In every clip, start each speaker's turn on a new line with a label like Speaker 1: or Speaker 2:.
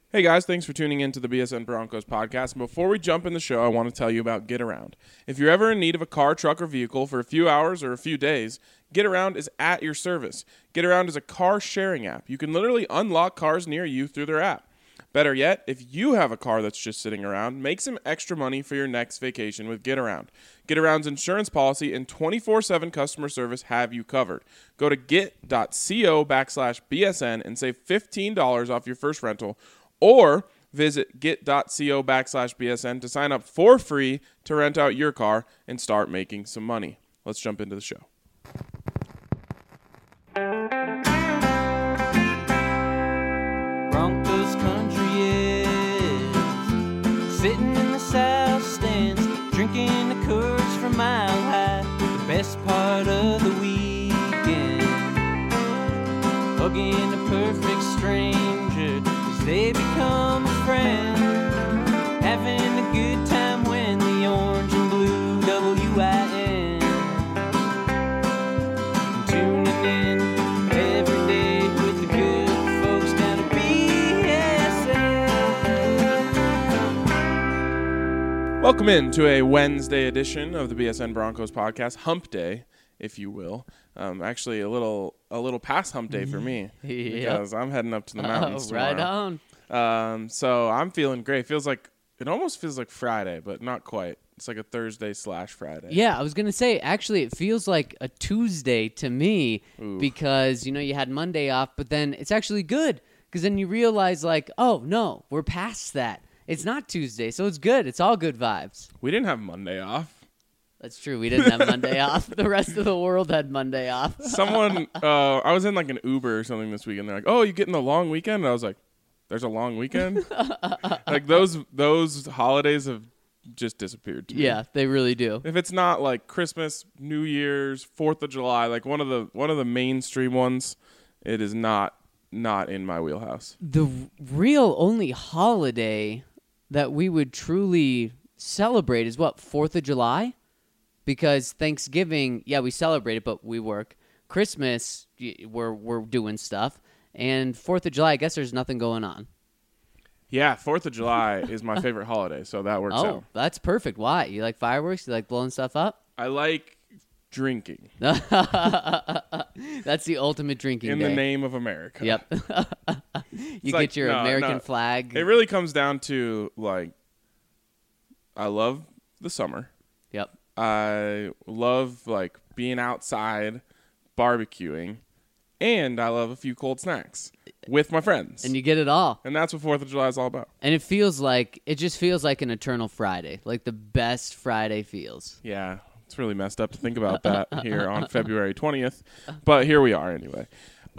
Speaker 1: Hey guys, thanks for tuning in to the BSN Broncos podcast. And before we jump in the show, I want to tell you about Get Around. If you're ever in need of a car, truck, or vehicle for a few hours or a few days, Get Around is at your service. Get Around is a car sharing app. You can literally unlock cars near you through their app. Better yet, if you have a car that's just sitting around, make some extra money for your next vacation with Get Around. Get Around's insurance policy and 24/7 customer service have you covered. Go to get.co/BSN and save $15 off your first rental, or visit get.co/BSN to sign up for free to rent out your car and start making some money. Let's jump into the show.
Speaker 2: Broncos country is sitting in the south stands, drinking the Coors from Mile High. The best part of the weekend, hugging a perfect stranger as they become a friend, having a good time when the orange and blue WIN, tuning in every day with the good folks down at BSN.
Speaker 1: Welcome in to a Wednesday edition of the BSN Broncos podcast, Hump Day, if you will. Actually, a little past Hump Day for me because I'm heading up to the mountains tomorrow.
Speaker 2: Right on.
Speaker 1: So I'm feeling great. It almost feels like Friday, but not quite. It's like a Thursday/Friday.
Speaker 3: Yeah, I was going to say, actually, it feels like a Tuesday to me.
Speaker 1: Ooh.
Speaker 3: Because, you had Monday off, but then it's actually good because then you realize, like, oh, no, we're past that. It's not Tuesday, so it's good. It's all good vibes.
Speaker 1: We didn't have Monday off.
Speaker 3: That's true. We didn't have Monday off. The rest of the world had Monday off.
Speaker 1: Someone, I was in like an Uber or something this week, and they're like, "Oh, you getting a long weekend?" And I was like, "There's a long weekend." Like those holidays have just disappeared to me.
Speaker 3: Yeah, they really do.
Speaker 1: If it's not like Christmas, New Year's, 4th of July, like one of the mainstream ones, it is not in my wheelhouse.
Speaker 3: The real only holiday that we would truly celebrate is what, 4th of July? Because Thanksgiving, yeah, we celebrate it, but we work. Christmas, we're doing stuff. And 4th of July, I guess there's nothing going on.
Speaker 1: Yeah, 4th of July is my favorite holiday, so that works out.
Speaker 3: Oh, that's perfect. Why? You like fireworks? You like blowing stuff up?
Speaker 1: I like drinking.
Speaker 3: That's the ultimate drinking
Speaker 1: In
Speaker 3: day.
Speaker 1: the name of America.
Speaker 3: Yep. You
Speaker 1: like,
Speaker 3: get your
Speaker 1: no,
Speaker 3: American
Speaker 1: no.
Speaker 3: flag.
Speaker 1: It really comes down to, like, I love the summer.
Speaker 3: Yep.
Speaker 1: I love, like, being outside, barbecuing, and I love a few cold snacks with my friends.
Speaker 3: And you get it all.
Speaker 1: And that's what 4th of July is all about.
Speaker 3: And it just feels like an eternal Friday. Like the best Friday feels.
Speaker 1: Yeah, it's really messed up to think about that here on February 20th. But here we are anyway.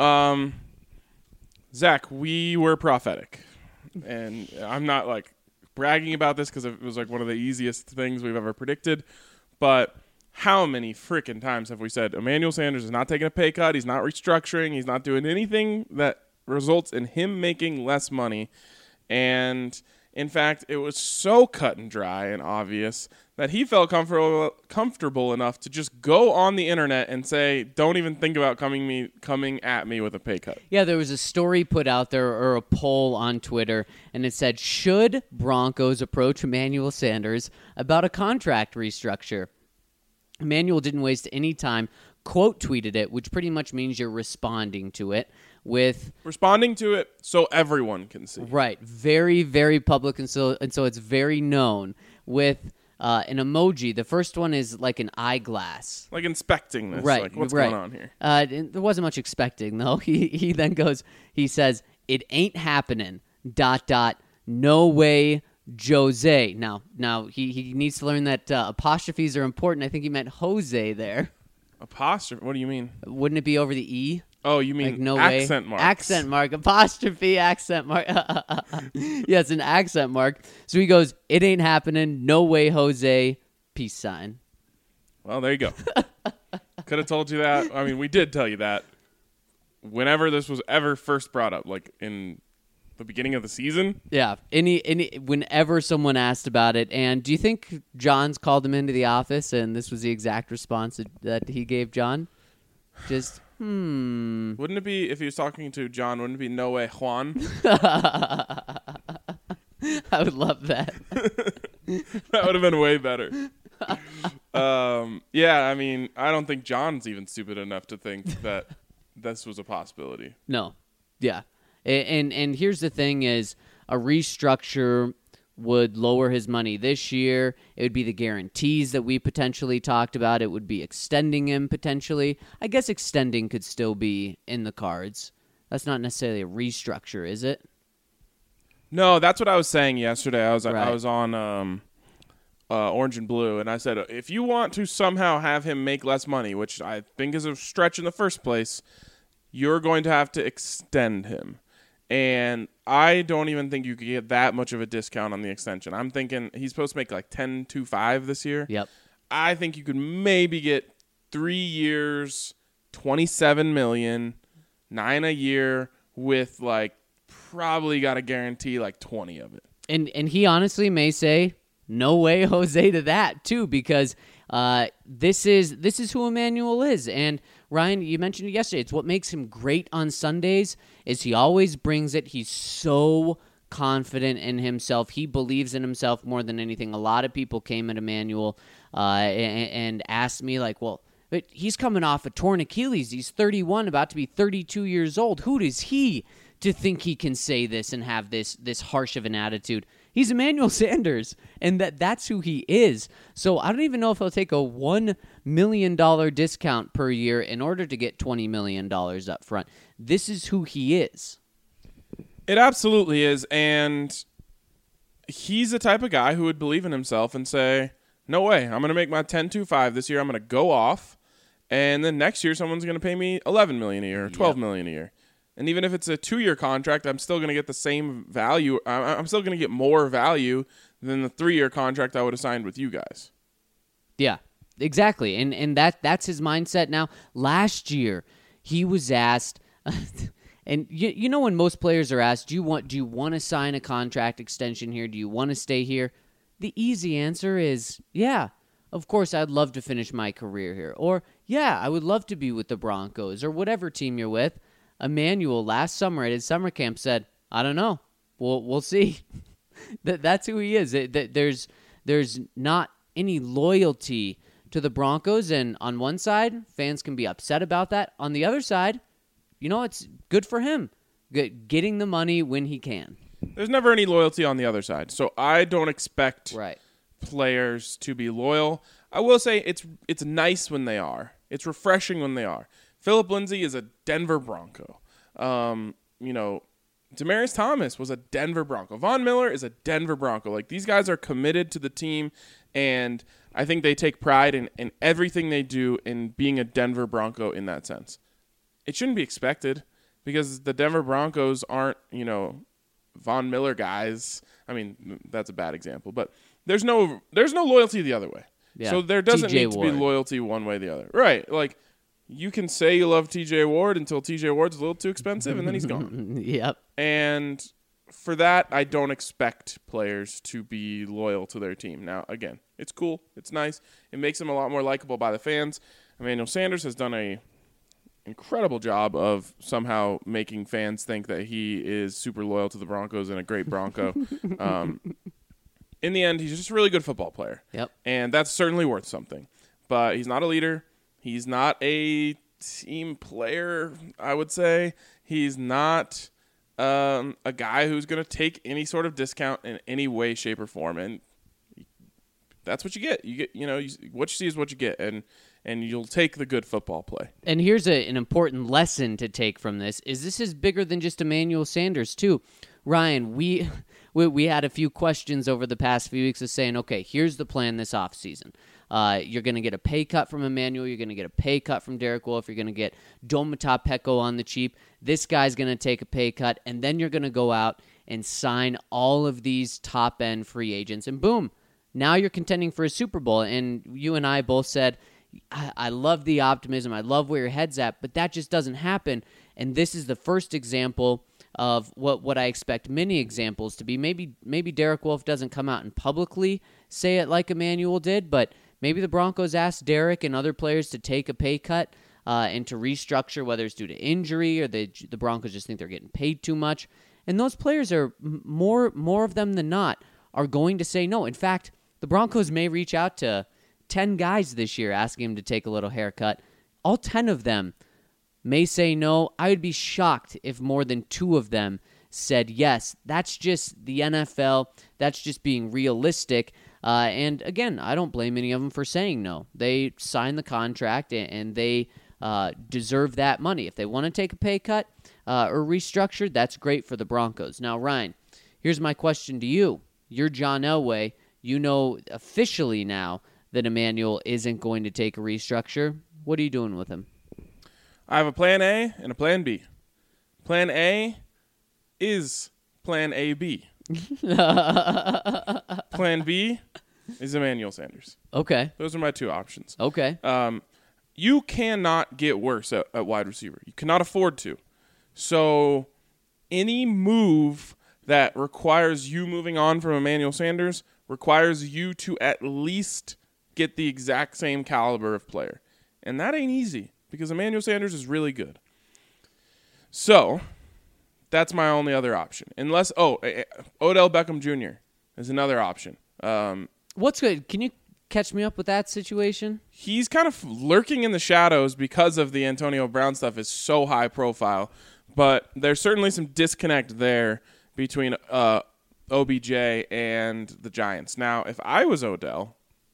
Speaker 1: Zach, we were prophetic. And I'm not, like, bragging about this because it was, like, one of the easiest things we've ever predicted. But how many freaking times have we said Emmanuel Sanders is not taking a pay cut, he's not restructuring, he's not doing anything that results in him making less money? And, in fact, it was so cut and dry and obvious that he felt comfortable enough to just go on the internet and say, don't even think about coming at me with a pay cut.
Speaker 3: Yeah, there was a story put out there or a poll on Twitter, and it said, should Broncos approach Emmanuel Sanders about a contract restructure? Emmanuel didn't waste any time, quote tweeted it, which pretty much means you're responding to it with...
Speaker 1: Responding to it so everyone can see.
Speaker 3: Right, very, very public, and so it's very known with... an emoji. The first one is like an eyeglass.
Speaker 1: Like inspecting this.
Speaker 3: Right.
Speaker 1: Like, what's
Speaker 3: right.
Speaker 1: going on here?
Speaker 3: There wasn't much expecting, though. He then goes, he says, it ain't happening, ... no way, Jose. Now he needs to learn that apostrophes are important. I think he meant Jose there.
Speaker 1: Apostrophe? What do you mean?
Speaker 3: Wouldn't it be over the E?
Speaker 1: Oh, you mean
Speaker 3: Like, no
Speaker 1: accent
Speaker 3: way.
Speaker 1: marks.
Speaker 3: Accent mark. Apostrophe, accent mark. Yeah, it's an accent mark. So he goes, it ain't happening. No way, Jose. Peace sign.
Speaker 1: Well, there you go. Could have told you that. I mean, we did tell you that whenever this was ever first brought up, like in the beginning of the season.
Speaker 3: Yeah, whenever someone asked about it. And do you think John's called him into the office and this was the exact response that he gave John? Just,
Speaker 1: Wouldn't it be, if he was talking to John, wouldn't it be no way Juan?
Speaker 3: I would love that.
Speaker 1: That would have been way better. Yeah, I mean, I don't think John's even stupid enough to think that this was a possibility.
Speaker 3: No. Yeah. And here's the thing is a restructure would lower his money this year. It would be the guarantees that we potentially talked about. It would be extending him potentially. I guess extending could still be in the cards. That's not necessarily a restructure, is it?
Speaker 1: No, that's what I was saying yesterday. I was
Speaker 3: Right.
Speaker 1: on Orange and Blue, and I said if you want to somehow have him make less money, which I think is a stretch in the first place, you're going to have to extend him. And I don't even think you could get that much of a discount on the extension. I'm thinking he's supposed to make like 10.25 this year.
Speaker 3: Yep.
Speaker 1: I think you could maybe get 3 years, $27 million, $9 a year with like probably got to guarantee like 20 of it.
Speaker 3: And he honestly may say, no way, Jose, to that too, because this is who Emmanuel is. And Ryan, you mentioned it yesterday. It's what makes him great on Sundays is he always brings it. He's so confident in himself. He believes in himself more than anything. A lot of people came at Emmanuel and asked me like, well, but he's coming off a torn Achilles. He's 31, about to be 32 years old. Who does he to think he can say this and have this harsh of an attitude? He's Emmanuel Sanders, and that's who he is. So I don't even know if he'll take a $1 million discount per year in order to get $20 million up front. This is who he is.
Speaker 1: It absolutely is, and he's the type of guy who would believe in himself and say, no way, I'm going to make my 10.25 this year. I'm going to go off, and then next year someone's going to pay me $11 million a year or $12 million a year. And even if it's a 2-year contract, I'm still going to get the same value. I'm still going to get more value than the 3-year contract I would have signed with you guys.
Speaker 3: Yeah, exactly. And that's his mindset now. Last year, he was asked, and you know when most players are asked, do you want to sign a contract extension here? Do you want to stay here? The easy answer is, yeah, of course I'd love to finish my career here. Or, yeah, I would love to be with the Broncos or whatever team you're with. Emmanuel last summer at his summer camp said, I don't know. We'll see. That's who he is. There's not any loyalty to the Broncos, and on one side, fans can be upset about that. On the other side, it's good for him, getting the money when he can.
Speaker 1: There's never any loyalty on the other side, so I don't expect
Speaker 3: Right.
Speaker 1: players to be loyal. I will say it's nice when they are. It's refreshing when they are. Philip Lindsay is a Denver Bronco. Demaryius Thomas was a Denver Bronco. Von Miller is a Denver Bronco. Like, these guys are committed to the team, and I think they take pride in everything they do in being a Denver Bronco in that sense. It shouldn't be expected because the Denver Broncos aren't, Von Miller guys. I mean, that's a bad example, but there's no loyalty the other way.
Speaker 3: Yeah.
Speaker 1: So there doesn't
Speaker 3: TJ
Speaker 1: need to be
Speaker 3: Ward.
Speaker 1: loyalty one way or the other. Right. Like, you can say you love TJ Ward until TJ Ward's a little too expensive, and then he's gone.
Speaker 3: Yep.
Speaker 1: And for that, I don't expect players to be loyal to their team. Now, again, it's cool. It's nice. It makes them a lot more likable by the fans. Emmanuel Sanders has done a incredible job of somehow making fans think that he is super loyal to the Broncos and a great Bronco. In the end, he's just a really good football player.
Speaker 3: Yep.
Speaker 1: And that's certainly worth something. But he's not a leader. He's not a team player, I would say. He's not a guy who's going to take any sort of discount in any way, shape, or form. And that's what you get. You get, what you see is what you get. And you'll take the good football play.
Speaker 3: And here's an important lesson to take from this is bigger than just Emmanuel Sanders too. Ryan, we had a few questions over the past few weeks of saying, okay, here's the plan this offseason. You're going to get a pay cut from Emmanuel. You're going to get a pay cut from Derek Wolfe. You're going to get Domata Peko on the cheap. This guy's going to take a pay cut, and then you're going to go out and sign all of these top-end free agents, and boom, now you're contending for a Super Bowl. And you and I both said, I love the optimism. I love where your head's at, but that just doesn't happen. And this is the first example of what I expect many examples to be. Maybe Derek Wolfe doesn't come out and publicly say it like Emmanuel did, but maybe the Broncos asked Derek and other players to take a pay cut and to restructure, whether it's due to injury or the Broncos just think they're getting paid too much. And those players are more of them than not are going to say no. In fact, the Broncos may reach out to 10 guys this year asking him to take a little haircut. All 10 of them may say no. I would be shocked if more than 2 of them said yes. That's just the NFL. That's just being realistic. And again, I don't blame any of them for saying no. They signed the contract and they deserve that money. If they want to take a pay cut or restructure, that's great for the Broncos. Now, Ryan, here's my question to you. You're John Elway. You know officially now that Emmanuel isn't going to take a restructure. What are you doing with him?
Speaker 1: I have a plan A and a plan B. Plan A is plan AB. Plan B is Emmanuel Sanders.
Speaker 3: Okay.
Speaker 1: Those are my 2 options.
Speaker 3: Okay.
Speaker 1: You cannot get worse at wide receiver. You cannot afford to. So any move that requires you moving on from Emmanuel Sanders requires you to at least get the exact same caliber of player. And that ain't easy because Emmanuel Sanders is really good. So that's my only other option. Unless, Odell Beckham Jr. is another option.
Speaker 3: What's good? Can you catch me up with that situation?
Speaker 1: He's kind of lurking in the shadows because of the Antonio Brown stuff is so high profile. But there's certainly some disconnect there between OBJ and the Giants. Now, if I was Odell,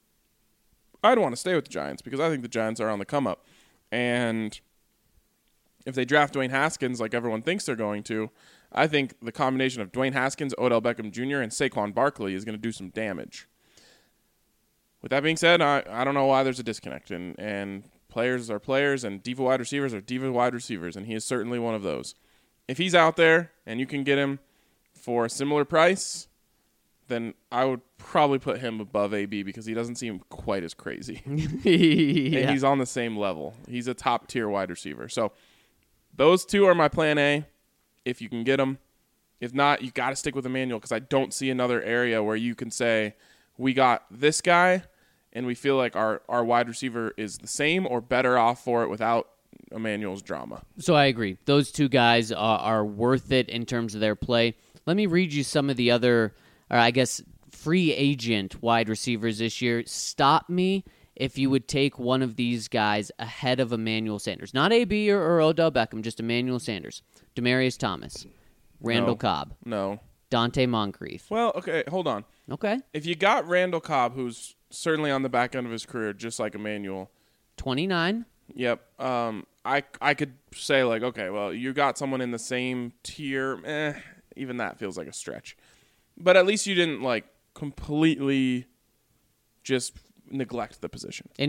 Speaker 1: I'd want to stay with the Giants because I think the Giants are on the come up. And if they draft Dwayne Haskins like everyone thinks they're going to, I think the combination of Dwayne Haskins, Odell Beckham Jr., and Saquon Barkley is going to do some damage. With that being said, I don't know why there's a disconnect. And players are players, and diva wide receivers are diva wide receivers, and he is certainly one of those. If he's out there and you can get him for a similar price, then I would probably put him above AB because he doesn't seem quite as crazy.
Speaker 3: Yeah.
Speaker 1: And he's on the same level. He's a top-tier wide receiver. So those 2 are my plan A if you can get them. If not, you got to stick with Emmanuel because I don't see another area where you can say, we got this guy and we feel like our wide receiver is the same or better off for it without Emmanuel's drama.
Speaker 3: So I agree. Those 2 guys are worth it in terms of their play. Let me read you some of the other, free agent wide receivers this year. Stop me if you would take one of these guys ahead of Emmanuel Sanders. Not AB or Odell Beckham, just Emmanuel Sanders. Demaryius Thomas. Randall Cobb.
Speaker 1: No.
Speaker 3: Dante Moncrief.
Speaker 1: Well, okay, hold on.
Speaker 3: Okay.
Speaker 1: If you got Randall Cobb, who's certainly on the back end of his career, just like Emmanuel.
Speaker 3: 29.
Speaker 1: Yep. I could say, like, okay, well, you got someone in the same tier. Even that feels like a stretch. But at least you didn't, like, completely just neglect the position.
Speaker 3: And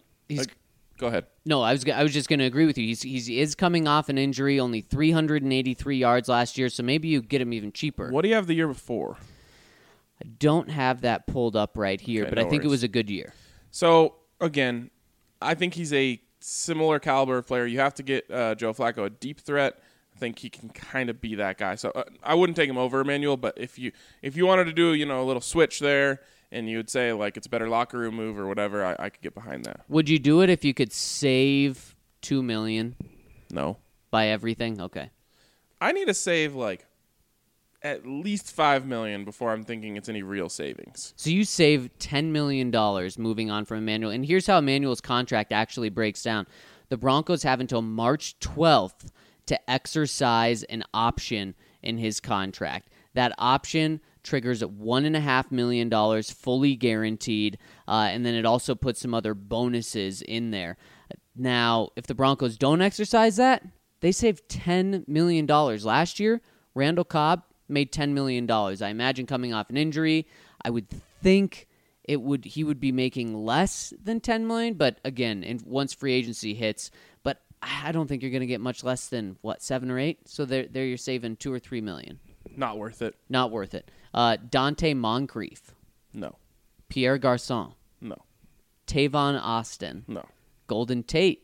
Speaker 1: go ahead.
Speaker 3: No, I was just going to agree with you. He is coming off an injury, only 383 yards last year, so maybe you get him even cheaper.
Speaker 1: What do you have the year before?
Speaker 3: I don't have that pulled up right here,
Speaker 1: Okay,
Speaker 3: but
Speaker 1: no
Speaker 3: I think it
Speaker 1: worries.
Speaker 3: was a good year.
Speaker 1: So, again, I think he's a similar caliber of player. You have to get Joe Flacco a deep threat. I think he can kind of be that guy. So I wouldn't take him over Emmanuel, but if you wanted to do a little switch there, and you would say like it's a better locker room move or whatever, I could get behind that.
Speaker 3: Would you do it if you could save $2 million?
Speaker 1: No,
Speaker 3: By everything? Okay.
Speaker 1: I need to save like at least $5 million before I'm thinking it's any real savings.
Speaker 3: So you save $10 million moving on from Emmanuel. And here's how Emmanuel's contract actually breaks down. The Broncos have until March 12th to exercise an option in his contract. That option triggers $1.5 million fully guaranteed, and then it also puts some other bonuses in there. Now, if the Broncos don't exercise that, they save $10 million. Last year, Randall Cobb made $10 million. I imagine coming off an injury, I would think he would be making less than $10 million, but again, once free agency hits, but I don't think you're going to get much less than, 7 or 8? So there you're saving $2 or $3 million.
Speaker 1: Not worth it.
Speaker 3: Not worth it. Dante Moncrief.
Speaker 1: No.
Speaker 3: Pierre Garçon.
Speaker 1: No.
Speaker 3: Tavon Austin.
Speaker 1: No.
Speaker 3: Golden Tate.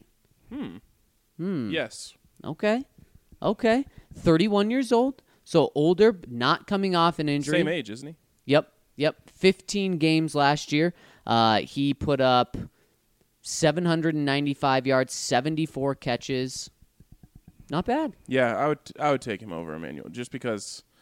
Speaker 1: Yes.
Speaker 3: Okay. 31 years old. So older, not coming off an injury.
Speaker 1: Same age, isn't he?
Speaker 3: Yep. 15 games last year. He put up 795 yards, 74 catches. Not bad.
Speaker 1: Yeah, I would take him over Emmanuel just because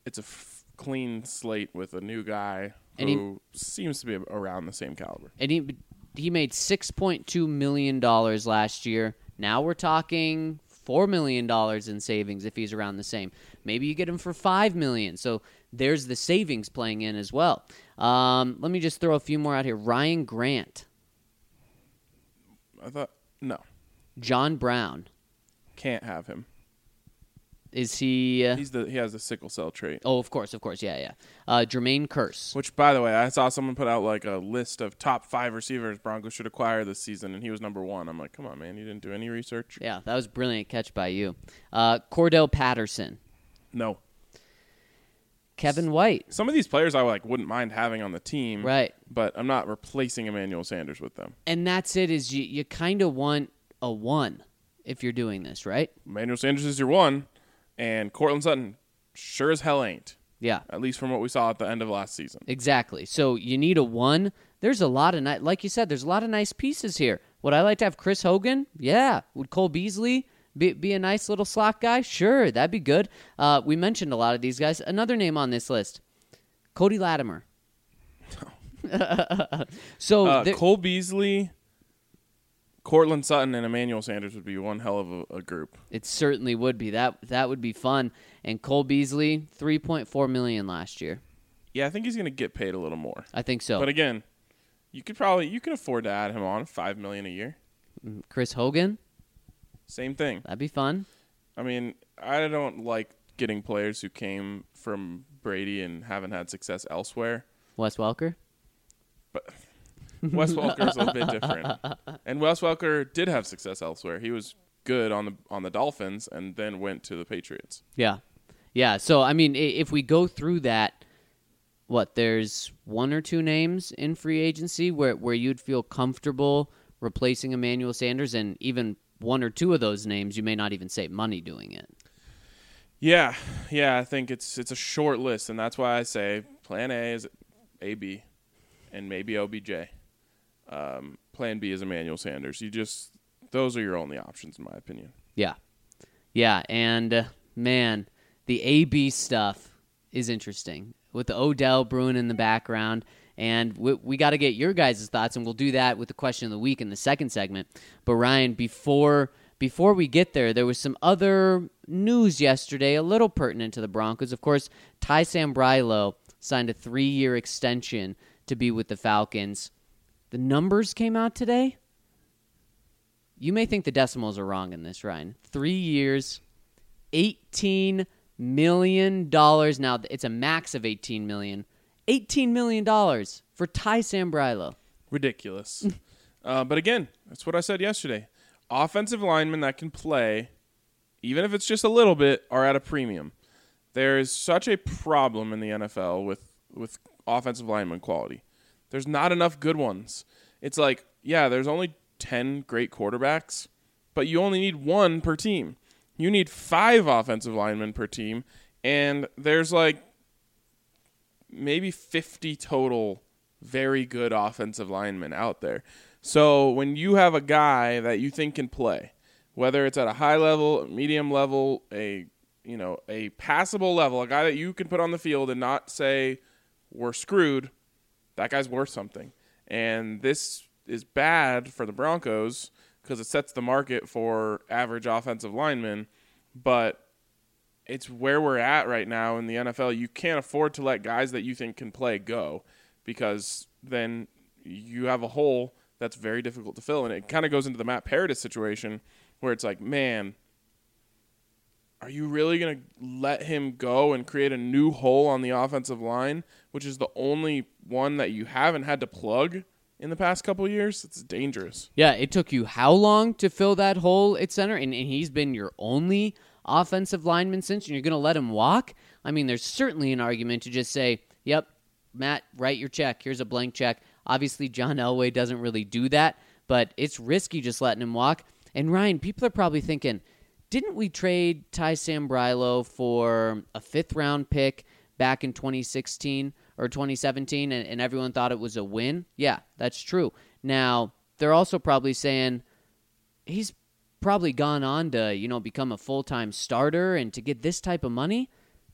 Speaker 1: it's a clean slate with a new guy
Speaker 3: And
Speaker 1: who seems to be around the same caliber.
Speaker 3: And he made $6.2 million last year. Now we're talking $4 million in savings if he's around the same. Maybe you get him for $5 million. So there's the savings playing in as well. Let me just throw a few more out here. Ryan Grant.
Speaker 1: I thought, no,
Speaker 3: John Brown.
Speaker 1: can't have him.
Speaker 3: Is he?
Speaker 1: He has the sickle cell trait.
Speaker 3: Oh, of course. Yeah. Jermaine Kearse.
Speaker 1: Which, by the way, I saw someone put out like a list of top 5 receivers Broncos should acquire this season, and he was number 1. I'm like, come on, man, you didn't do any research?
Speaker 3: Yeah, that was a brilliant catch by you. Cordell Patterson.
Speaker 1: No.
Speaker 3: Kevin White.
Speaker 1: Some of these players I wouldn't mind having on the team,
Speaker 3: Right.
Speaker 1: but I'm not replacing Emmanuel Sanders with them.
Speaker 3: And that's it. Is you kind of want a 1 if you're doing this, right?
Speaker 1: Emmanuel Sanders is your 1, and Cortland Sutton sure as hell ain't,
Speaker 3: Yeah.
Speaker 1: at least from what we saw at the end of last season.
Speaker 3: Exactly. So you need a 1. There's a lot of like you said, there's a lot of nice pieces here. Would I like to have Chris Hogan? Yeah. Would Cole Beasley be a nice little slot guy? Sure, that'd be good. We mentioned a lot of these guys. Another name on this list, Cody Latimer. So
Speaker 1: Cole Beasley, Cortland Sutton, and Emmanuel Sanders would be one hell of a group.
Speaker 3: it certainly would be. That would be fun. And Cole Beasley, $3.4 million last year.
Speaker 1: Yeah, I think he's going to get paid a little more.
Speaker 3: I think so.
Speaker 1: But again, you can afford to add him on $5 million a year.
Speaker 3: Chris Hogan,
Speaker 1: Same thing.
Speaker 3: that'd be fun.
Speaker 1: I mean, I don't like getting players who came from Brady and haven't had success elsewhere.
Speaker 3: Wes Welker.
Speaker 1: Wes Welker's a bit different, and Wes Welker did have success elsewhere. He was good on the Dolphins, and then went to the Patriots.
Speaker 3: Yeah. So I mean, if we go through that, there's 1 or 2 names in free agency where you'd feel comfortable replacing Emmanuel Sanders, and even 1 or 2 of those names, you may not even save money doing it.
Speaker 1: Yeah. I think it's a short list, and that's why I say Plan A is AB, and maybe OBJ. Plan B is Emmanuel Sanders. Those are your only options, in my opinion.
Speaker 3: Yeah, and man, the AB stuff is interesting with the Odell brewing in the background, and we got to get your guys' thoughts, and we'll do that with the question of the week in the second segment. But Ryan, before we get there was some other news yesterday, a little pertinent to the Broncos. Of course, Ty Sambrailo signed a 3-year extension to be with the Falcons. The numbers came out today. You may think the decimals are wrong in this, Ryan. 3 years, $18 million. Now, it's a max of $18 million. $18 million for Ty Sambrailo.
Speaker 1: Ridiculous. But again, that's what I said yesterday. Offensive linemen that can play, even if it's just a little bit, are at a premium. There is such a problem in the NFL with offensive lineman quality. There's not enough good ones. It's like, yeah, there's only 10 great quarterbacks, but you only need 1 per team. You need 5 offensive linemen per team, and there's maybe 50 total very good offensive linemen out there. So when you have a guy that you think can play, whether it's at a high level, medium level, a passable level, a guy that you can put on the field and not say we're screwed, that guy's worth something. And this is bad for the Broncos because it sets the market for average offensive linemen, but it's where we're at right now in the NFL. You can't afford to let guys that you think can play go, because then you have a hole that's very difficult to fill. And it kind of goes into the Matt Paradis situation where it's like, man, are you really going to let him go and create a new hole on the offensive line, which is the only one that you haven't had to plug in the past couple of years? It's dangerous.
Speaker 3: Yeah, it took you how long to fill that hole at center? And he's been your only offensive lineman since, and you're going to let him walk? I mean, there's certainly an argument to just say, yep, Matt, write your check. Here's a blank check. Obviously, John Elway doesn't really do that, but it's risky just letting him walk. And Ryan, people are probably thinking, didn't we trade Ty Sambrailo for a 5th-round pick back in 2016 or 2017, and everyone thought it was a win? Yeah, that's true. Now, they're also probably saying he's probably gone on to, become a full-time starter, and to get this type of money,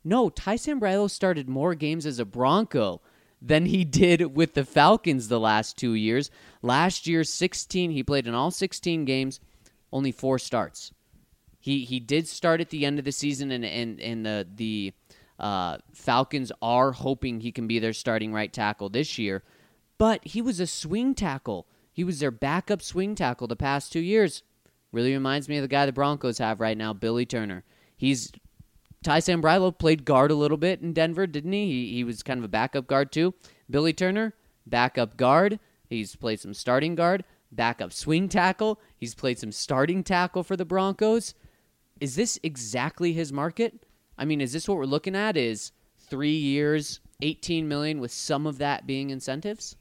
Speaker 3: No, Ty Sambrailo started more games as a Bronco than he did with the Falcons the last 2 years. Last year, 16, he played in all 16 games, only 4 starts. He did start at the end of the season, and the Falcons are hoping he can be their starting right tackle this year. But he was a swing tackle. He was their backup swing tackle the past 2 years. Really reminds me of the guy the Broncos have right now, Billy Turner. Ty Sambrailo played guard a little bit in Denver, didn't he? He was kind of a backup guard too. Billy Turner, backup guard. He's played some starting guard, backup swing tackle. He's played some starting tackle for the Broncos. Is this exactly his market? I mean, is this what we're looking at? Is 3 years, $18 million with some of that being incentives?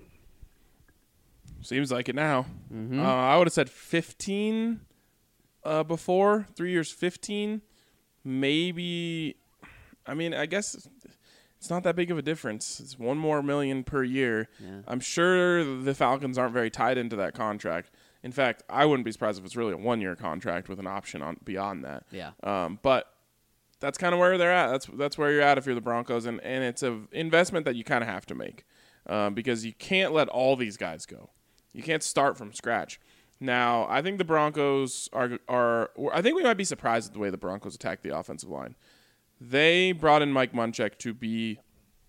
Speaker 1: Seems like it now. I would have said 15 before. 3 years, 15. Maybe. I mean, I guess it's not that big of a difference. It's $1 more million per year.
Speaker 3: Yeah.
Speaker 1: I'm sure the Falcons aren't very tied into that contract. In fact, I wouldn't be surprised if it's really a 1-year contract with an option on beyond that.
Speaker 3: Yeah.
Speaker 1: But that's kind of where they're at. That's where you're at if you're the Broncos, and it's an investment that you kind of have to make because you can't let all these guys go. You can't start from scratch. Now, I think the Broncos are I think we might be surprised at the way the Broncos attack the offensive line. They brought in Mike Munchak to be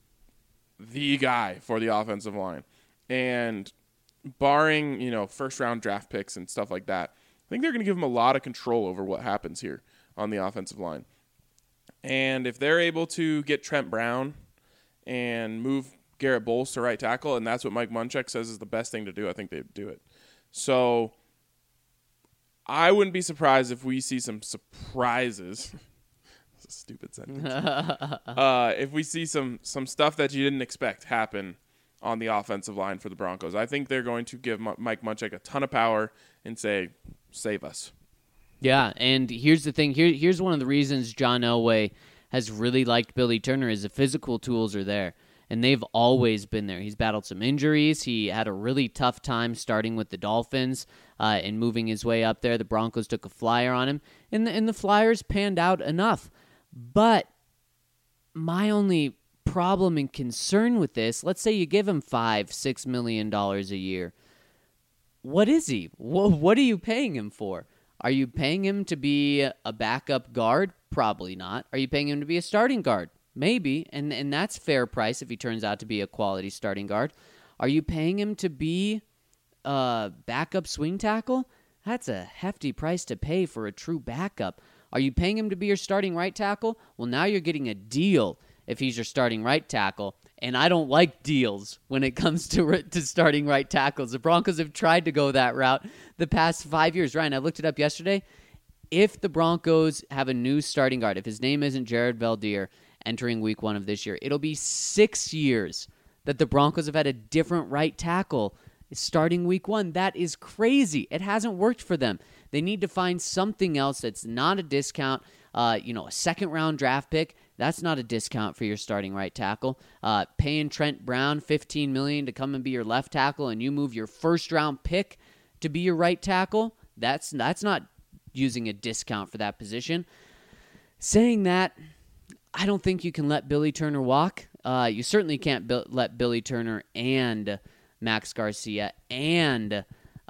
Speaker 1: the guy for the offensive line. And barring, first-round draft picks and stuff like that, I think they're going to give him a lot of control over what happens here on the offensive line. And if they're able to get Trent Brown and move Garrett Bowles to right tackle, and that's what Mike Munchak says is the best thing to do, I think they'd do it. So I wouldn't be surprised if we see some surprises. That's a stupid sentence. If we see some stuff that you didn't expect happen on the offensive line for the Broncos. I think they're going to give Mike Munchak a ton of power and say, save us.
Speaker 3: Yeah, and here's the thing. Here's one of the reasons John Elway has really liked Billy Turner is the physical tools are there. And they've always been there. He's battled some injuries. He had a really tough time starting with the Dolphins and moving his way up there. The Broncos took a flyer on him, and the Flyers panned out enough. But my only problem and concern with this, let's say you give him $5-6 million a year. What is he? What are you paying him for? Are you paying him to be a backup guard? Probably not. Are you paying him to be a starting guard? Maybe, and that's fair price if he turns out to be a quality starting guard. Are you paying him to be a backup swing tackle? That's a hefty price to pay for a true backup. Are you paying him to be your starting right tackle? Well, now you're getting a deal if he's your starting right tackle, and I don't like deals when it comes to starting right tackles. The Broncos have tried to go that route the past 5 years. Ryan, I looked it up yesterday. If the Broncos have a new starting guard, if his name isn't Jared Valdir, entering week 1 of this year, it'll be 6 years that the Broncos have had a different right tackle starting week 1. That is crazy. It hasn't worked for them. They need to find something else that's not a discount. A second-round draft pick, that's not a discount for your starting right tackle. Paying Trent Brown $15 million to come and be your left tackle, and you move your first-round pick to be your right tackle, that's not using a discount for that position. Saying that, I don't think you can let Billy Turner walk. You certainly can't let Billy Turner and Max Garcia and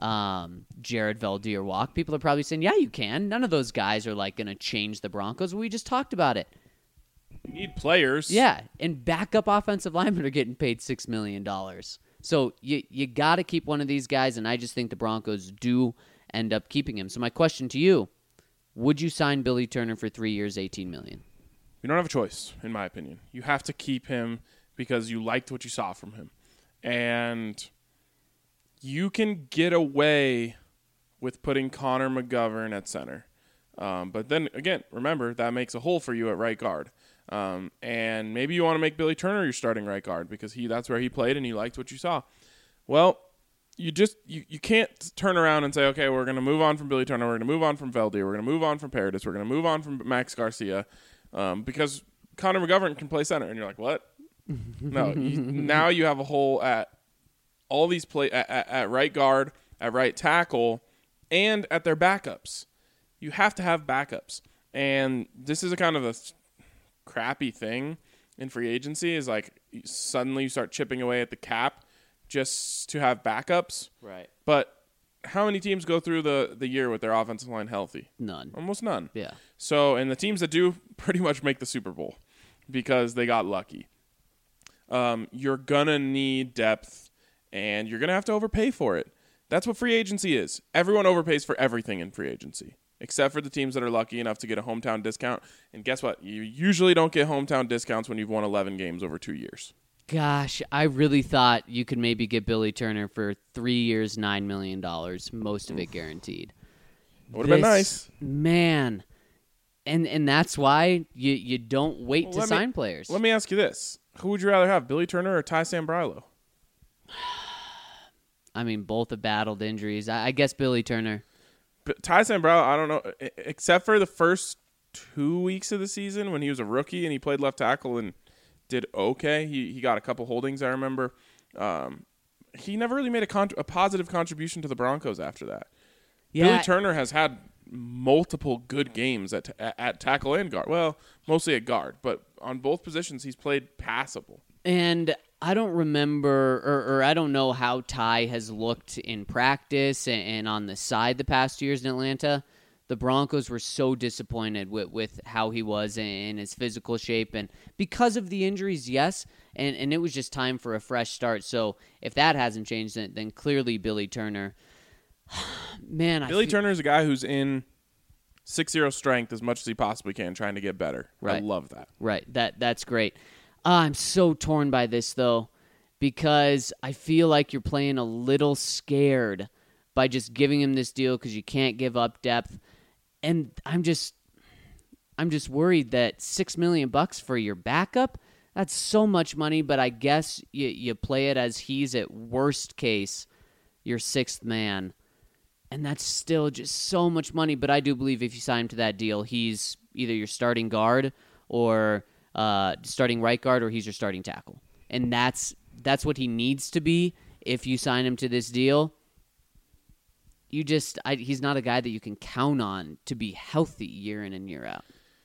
Speaker 3: Jared Valdir walk. People are probably saying, yeah, you can. None of those guys are going to change the Broncos. We just talked about it.
Speaker 1: You need players.
Speaker 3: Yeah, and backup offensive linemen are getting paid $6 million. So you got to keep one of these guys, and I just think the Broncos do end up keeping him. So my question to you, would you sign Billy Turner for 3 years, $18 million?
Speaker 1: You don't have a choice, in my opinion. You have to keep him because you liked what you saw from him. And you can get away with putting Connor McGovern at center. But then, again, remember, that makes a hole for you at right guard. And maybe you want to make Billy Turner your starting right guard because that's where he played and you liked what you saw. Well, you can't turn around and say, okay, we're going to move on from Billy Turner, we're going to move on from Valdir, we're going to move on from Paradis, we're going to move on from Max Garcia, because Connor McGovern can play center. And you're like, what? No, now you have a hole at all these at right guard, at right tackle, and at their backups. You have to have backups. And this is a kind of a crappy thing in free agency is like suddenly you start chipping away at the cap just to have backups.
Speaker 3: Right.
Speaker 1: But how many teams go through the year with their offensive line healthy?
Speaker 3: None.
Speaker 1: Almost none.
Speaker 3: Yeah.
Speaker 1: So, and the teams that do pretty much make the Super Bowl because they got lucky. You're going to need depth, and you're going to have to overpay for it. That's what free agency is. Everyone overpays for everything in free agency, except for the teams that are lucky enough to get a hometown discount. And guess what? You usually don't get hometown discounts when you've won 11 games over 2 years.
Speaker 3: Gosh, I really thought you could maybe get Billy Turner for 3 years, $9 million, most of it guaranteed.
Speaker 1: Would have been nice.
Speaker 3: Man. And that's why you don't wait to sign players.
Speaker 1: Let me ask you this. Who would you rather have, Billy Turner or Ty Sambrailo?
Speaker 3: I mean, both have battled injuries. I guess Billy Turner.
Speaker 1: But Ty Sambrailo, I don't know, except for the first 2 weeks of the season when he was a rookie and he played left tackle and did okay. He got a couple holdings, I remember. He never really made a positive contribution to the Broncos after that.
Speaker 3: Yeah.
Speaker 1: Billy Turner has had multiple good games at tackle and guard. Well, mostly at guard, but on both positions he's played passable.
Speaker 3: And I don't remember, or I don't know how Ty has looked in practice and on the side the past 2 years in Atlanta. The Broncos were so disappointed with how he was in his physical shape. And because of the injuries, yes, and it was just time for a fresh start. So if that hasn't changed, then clearly Billy Turner. Man,
Speaker 1: Billy Turner is a guy who's in 6-0 strength as much as he possibly can, trying to get better.
Speaker 3: Right.
Speaker 1: I love that.
Speaker 3: Right, that's great. I'm so torn by this, though, because I feel like you're playing a little scared by just giving him this deal because you can't give up depth. And I'm just worried that $6 million for your backup, that's so much money, but I guess you play it as he's at worst case your sixth man. And that's still just so much money. But I do believe if you sign him to that deal, he's either your starting guard or starting right guard, or he's your starting tackle. And that's what he needs to be if you sign him to this deal. He's not a guy that you can count on to be healthy year in and year out.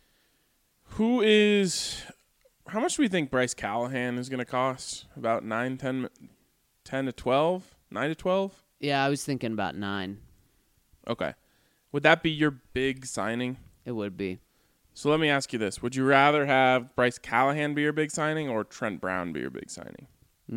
Speaker 1: How much do we think Bryce Callahan is going to cost? About 10 to 12? 9 to 12?
Speaker 3: Yeah, I was thinking about 9.
Speaker 1: Okay. Would that be your big signing?
Speaker 3: It would be.
Speaker 1: So let me ask you this. Would you rather have Bryce Callahan be your big signing or Trent Brown be your big signing?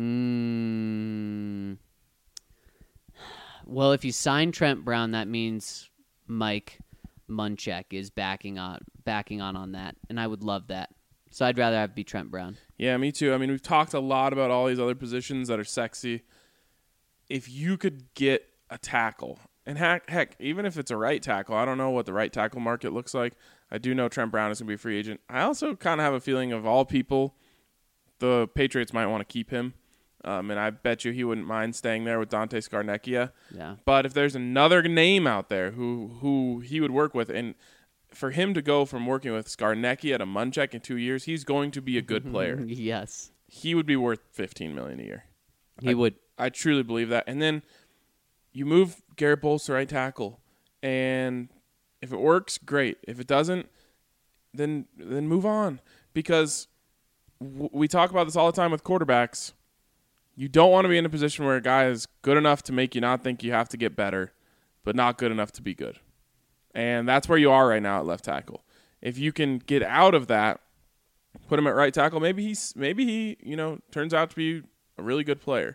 Speaker 3: Well, if you sign Trent Brown, that means Mike Munchak is backing on that, and I would love that. So I'd rather have it be Trent Brown.
Speaker 1: Yeah, me too. I mean, we've talked a lot about all these other positions that are sexy. If you could get a tackle, and heck, even if it's a right tackle, I don't know what the right tackle market looks like. I do know Trent Brown is going to be a free agent. I also kind of have a feeling of all people, the Patriots might want to keep him. And I bet you he wouldn't mind staying there with Dante Scarnecchia.
Speaker 3: Yeah.
Speaker 1: But if there's another name out there who he would work with, and for him to go from working with Scarnecchia to Munchak in 2 years, he's going to be a good player.
Speaker 3: Yes.
Speaker 1: He would be worth $15 million a year.
Speaker 3: He would.
Speaker 1: I truly believe that. And then you move Garrett Bowles to right tackle, and if it works, great. If it doesn't, then move on. Because we talk about this all the time with quarterbacks. You don't want to be in a position where a guy is good enough to make you not think you have to get better, but not good enough to be good. And that's where you are right now at left tackle. If you can get out of that, put him at right tackle, maybe he turns out to be a really good player.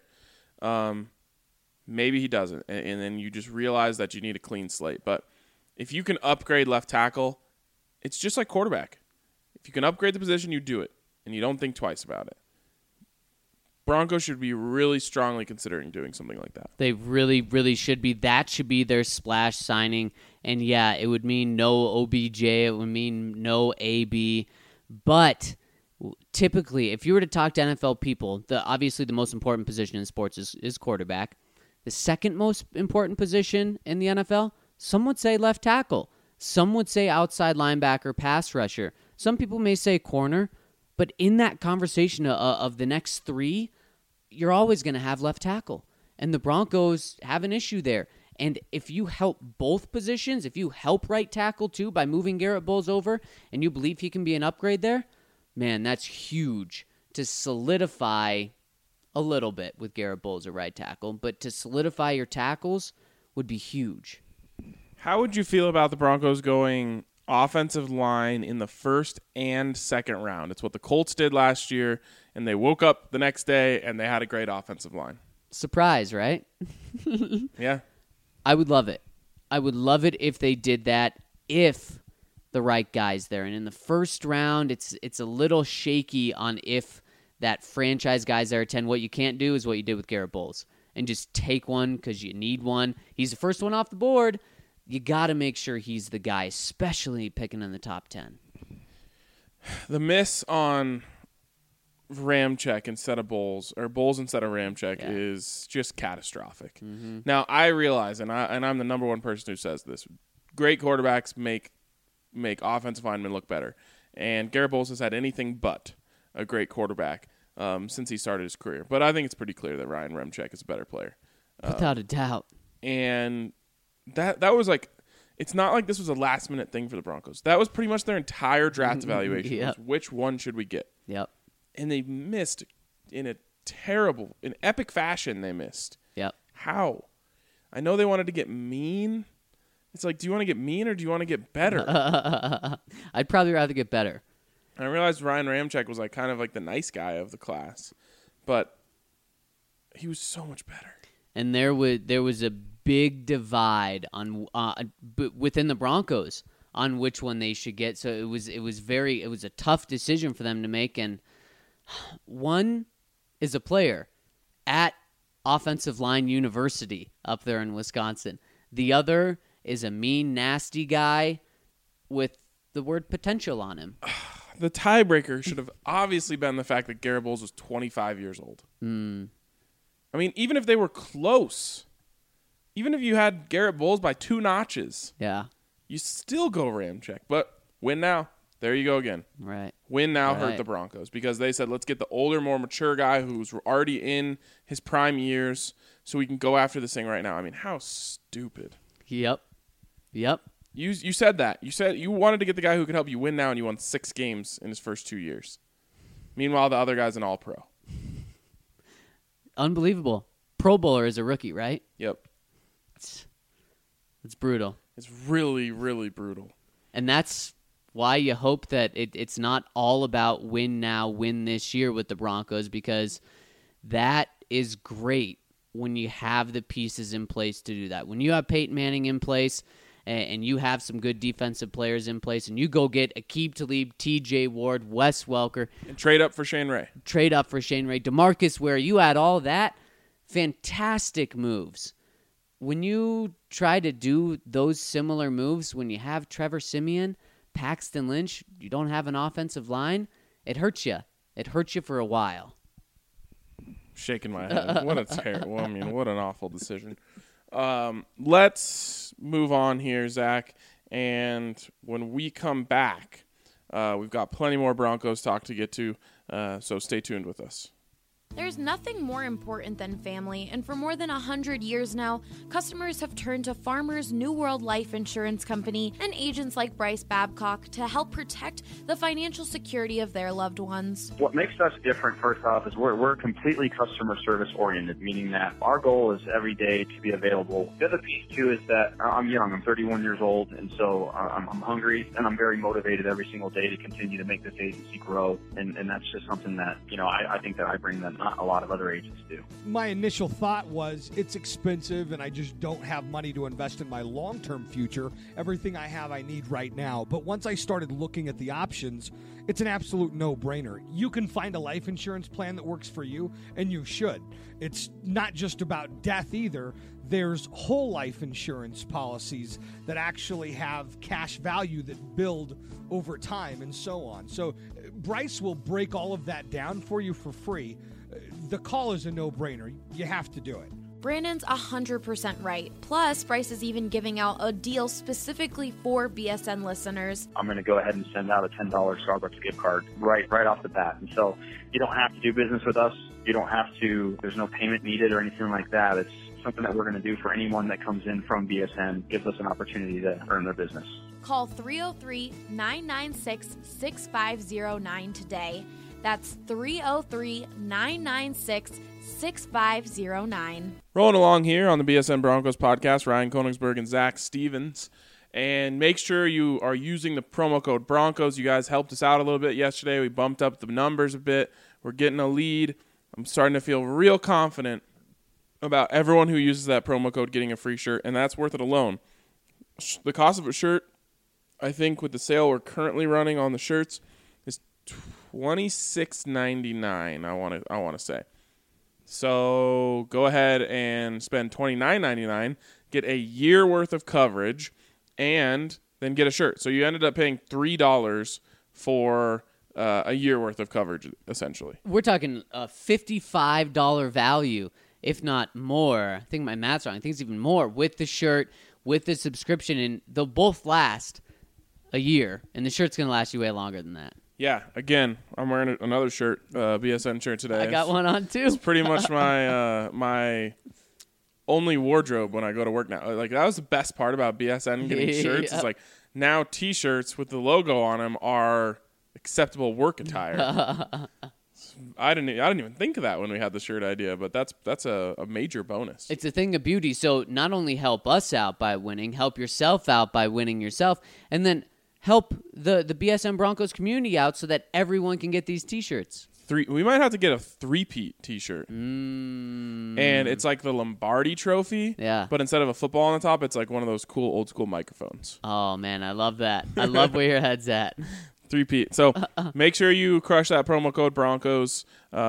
Speaker 1: Maybe he doesn't, and then you just realize that you need a clean slate. But if you can upgrade left tackle, it's just like quarterback. If you can upgrade the position, you do it, and you don't think twice about it. Broncos should be really strongly considering doing something like that.
Speaker 3: They really, really should be. That should be their splash signing. And, yeah, it would mean no OBJ. It would mean no AB. But typically, if you were to talk to NFL people, obviously the most important position in sports is quarterback. The second most important position in the NFL, some would say left tackle. Some would say outside linebacker, pass rusher. Some people may say corner. But in that conversation of the next three, you're always going to have left tackle. And the Broncos have an issue there. And if you help both positions, if you help right tackle too by moving Garrett Bowles over, and you believe he can be an upgrade there, man, that's huge to solidify a little bit with Garrett Bowles at right tackle, but to solidify your tackles would be huge.
Speaker 1: How would you feel about the Broncos going offensive line in the first and second round? It's what the Colts did last year, and they woke up the next day and they had a great offensive line.
Speaker 3: Surprise, right?
Speaker 1: Yeah.
Speaker 3: I would love it. I would love it if they did that, if the right guy's there. And in the first round, it's a little shaky on if that franchise guy's there at 10. What you can't do is what you did with Garrett Bowles and just take one because you need one. He's the first one off the board. You got to make sure he's the guy, especially picking in the top 10.
Speaker 1: The miss on Ramczyk instead of Bowles, or Bowles instead of Ramczyk, is just catastrophic. Mm-hmm. Now, I realize, and I'm the number one person who says this, great quarterbacks make offensive linemen look better. And Garrett Bowles has had anything but a great quarterback since he started his career. But I think it's pretty clear that Ryan Ramczyk is a better player.
Speaker 3: Without a doubt.
Speaker 1: And that was like, it's not like this was a last-minute thing for the Broncos. That was pretty much their entire draft evaluation.
Speaker 3: Yep.
Speaker 1: Was which one should we get?
Speaker 3: Yep.
Speaker 1: And they missed in epic fashion. They missed.
Speaker 3: Yep.
Speaker 1: How? I know they wanted to get mean. It's like, do you want to get mean or do you want to get better?
Speaker 3: I'd probably rather get better.
Speaker 1: I realized Ryan Ramczyk was like kind of like the nice guy of the class, but he was so much better.
Speaker 3: And there was a big divide on within the Broncos on which one they should get. So it was a tough decision for them to make. And one is a player at Offensive Line University up there in Wisconsin. The other is a mean, nasty guy with the word potential on him.
Speaker 1: The tiebreaker should have obviously been the fact that Garrett Bowles was 25 years old. I mean, even if they were close, even if you had Garrett Bowles by 2 notches, you still go Ramczyk. But win now. There you go again.
Speaker 3: Right.
Speaker 1: Win now hurt the Broncos because they said, let's get the older, more mature guy who's already in his prime years so we can go after this thing right now. I mean, how stupid.
Speaker 3: Yep.
Speaker 1: You said that. You said you wanted to get the guy who could help you win now, and you won 6 games in his first 2 years. Meanwhile, the other guy's an all-pro.
Speaker 3: Unbelievable. Pro Bowler is a rookie, right?
Speaker 1: Yep.
Speaker 3: It's brutal.
Speaker 1: It's really, really brutal.
Speaker 3: And that's why you hope that it's not all about win now, win this year with the Broncos, because that is great when you have the pieces in place to do that. When you have Peyton Manning in place and you have some good defensive players in place and you go get Aqib Talib, TJ Ward, Wes Welker.
Speaker 1: And trade up for Shane Ray.
Speaker 3: DeMarcus Ware, you add all that. Fantastic moves. When you try to do those similar moves, when you have Trevor Siemian, Paxton Lynch, you don't have an offensive line, it hurts you. It hurts you for a while.
Speaker 1: Shaking my head. What a terrible, what an awful decision. Let's move on here, Zach. And when we come back, we've got plenty more Broncos talk to get to, so stay tuned with us.
Speaker 4: There's nothing more important than family, and for more than 100 years now, customers have turned to Farmers New World Life Insurance Company and agents like Bryce Babcock to help protect the financial security of their loved ones.
Speaker 5: What makes us different, first off, is we're completely customer service oriented, meaning that our goal is every day to be available. The other piece, too, is that I'm young. I'm 31 years old, and so I'm hungry, and I'm very motivated every single day to continue to make this agency grow, and that's just something that, I think that I bring that not a lot of other agents do.
Speaker 6: My initial thought was it's expensive and I just don't have money to invest in my long-term future. Everything I have I need right now. But once I started looking at the options, it's an absolute no-brainer. You can find a life insurance plan that works for you, and you should. It's not just about death either. There's whole life insurance policies that actually have cash value that build over time and so on. So Bryce will break all of that down for you for free. The call is a no-brainer. You have to do it.
Speaker 4: Brandon's 100% right. Plus, Bryce is even giving out a deal specifically for BSN listeners.
Speaker 5: I'm going to go ahead and send out a $10 Starbucks gift card right off the bat. And so you don't have to do business with us. You don't have to, there's no payment needed or anything like that. It's something that we're going to do for anyone that comes in from BSN, gives us an opportunity to earn their business.
Speaker 4: Call 303-996-6509 today. That's 303-996-6509.
Speaker 1: Rolling along here on the BSN Broncos podcast, Ryan Koenigsberg and Zach Stevens. And make sure you are using the promo code Broncos. You guys helped us out a little bit yesterday. We bumped up the numbers a bit. We're getting a lead. I'm starting to feel real confident about everyone who uses that promo code getting a free shirt, and that's worth it alone. The cost of a shirt, I think with the sale we're currently running on the shirts, is $26.99, I want to say. So go ahead and spend $29.99, get a year worth of coverage, and then get a shirt. So you ended up paying $3 for a year worth of coverage, essentially.
Speaker 3: We're talking a $55 value, if not more. I think my math's wrong. I think it's even more with the shirt, with the subscription, and they'll both last a year, and the shirt's going to last you way longer than that.
Speaker 1: Yeah, again, I'm wearing another shirt, BSN shirt today.
Speaker 3: I got one on, too.
Speaker 1: It's pretty much my my only wardrobe when I go to work now. Like, that was the best part about BSN getting shirts. It's like, now T-shirts with the logo on them are acceptable work attire. I didn't even think of that when we had the shirt idea, but that's a major bonus.
Speaker 3: It's a thing of beauty. So not only help us out by winning, help yourself out by winning yourself, and then help the BSN Broncos community out so that everyone can get these T-shirts.
Speaker 1: We might have to get a three-peat T-shirt. And it's like the Lombardi trophy.
Speaker 3: Yeah.
Speaker 1: But instead of a football on the top, it's like one of those cool old-school microphones.
Speaker 3: Oh, man, I love that. I love where your head's at.
Speaker 1: Three-peat. So make sure you crush that promo code Broncos.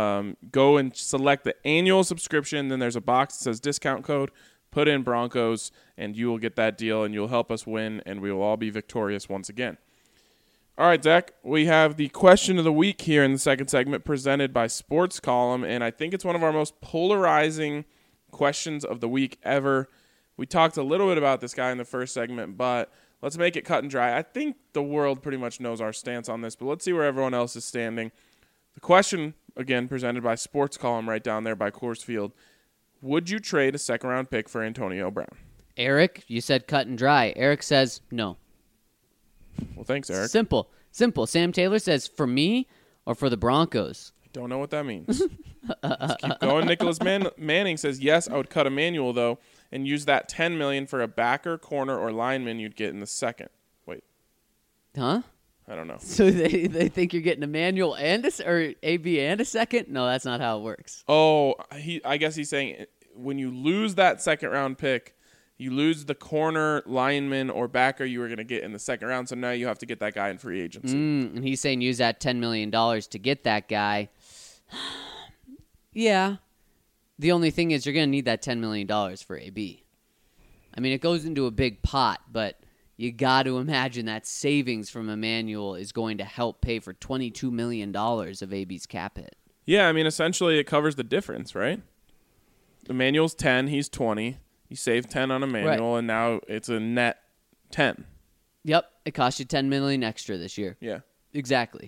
Speaker 1: Go and select the annual subscription. Then there's a box that says discount code. Put in Broncos, and you will get that deal, and you'll help us win, and we will all be victorious once again. All right, Zach, we have the question of the week here in the second segment presented by Sports Column, and I think it's one of our most polarizing questions of the week ever. We talked a little bit about this guy in the first segment, but let's make it cut and dry. I think the world pretty much knows our stance on this, but let's see where everyone else is standing. The question, again, presented by Sports Column right down there by Coors Field. Would you trade a second-round pick for Antonio Brown?
Speaker 3: Eric, you said cut and dry. Eric says no.
Speaker 1: Well, thanks, Eric.
Speaker 3: Simple. Sam Taylor says for me or for the Broncos.
Speaker 1: I don't know what that means. Let's keep going. Nicholas Manning says, yes, I would cut Emmanuel, though, and use that $10 million for a backer, corner, or lineman you'd get in the second. Wait.
Speaker 3: Huh?
Speaker 1: I don't know.
Speaker 3: So they think you're getting Emmanuel and or AB and a second? No, that's not how it works.
Speaker 1: Oh, I guess he's saying when you lose that second-round pick, you lose the corner, lineman, or backer you were going to get in the second round, so now you have to get that guy in free agency.
Speaker 3: And he's saying use that $10 million to get that guy. Yeah. The only thing is you're going to need that $10 million for AB. I mean, it goes into a big pot, but you got to imagine that savings from Emmanuel is going to help pay for $22 million of AB's cap hit.
Speaker 1: Yeah, I mean, essentially it covers the difference, right? Emmanuel's 10, he's 20. You save 10 on Emmanuel, right, and now it's a net 10.
Speaker 3: Yep, it cost you $10 million extra this year.
Speaker 1: Yeah.
Speaker 3: Exactly.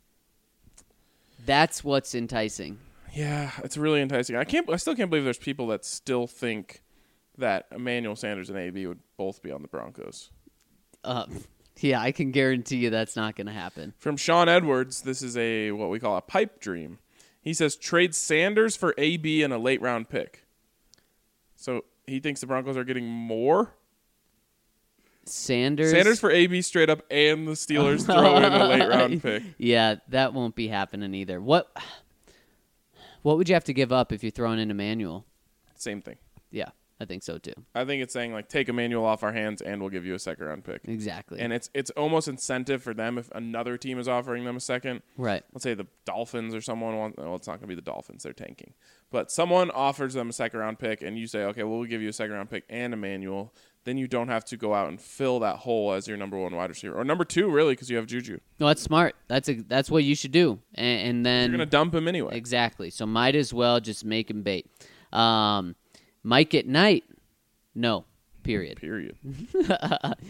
Speaker 3: That's what's enticing.
Speaker 1: Yeah, it's really enticing. I still can't believe there's people that still think that Emmanuel Sanders and AB would both be on the Broncos.
Speaker 3: Yeah, I can guarantee you that's not going to happen.
Speaker 1: From Sean Edwards, this is what we call a pipe dream. He says, trade Sanders for AB and a late round pick. So he thinks the Broncos are getting more? Sanders for AB straight up, and the Steelers throw in a late round pick.
Speaker 3: Yeah, that won't be happening either. What would you have to give up if you're throwing in Emmanuel?
Speaker 1: Same thing.
Speaker 3: Yeah, I think so too.
Speaker 1: I think it's saying, like, take Emmanuel off our hands and we'll give you a second round pick.
Speaker 3: Exactly.
Speaker 1: And it's almost incentive for them if another team is offering them a second.
Speaker 3: Right.
Speaker 1: Let's say the Dolphins or someone wants, well, it's not going to be the Dolphins, they're tanking. But someone offers them a second round pick and you say, okay, well, we'll give you a second round pick and Emmanuel. Then you don't have to go out and fill that hole as your number one wide receiver. Or number two, really, because you have Juju.
Speaker 3: No, that's smart. That's what you should do. And then
Speaker 1: you're going to dump him anyway.
Speaker 3: Exactly. So might as well just make him bait. Mike at night. No. Period.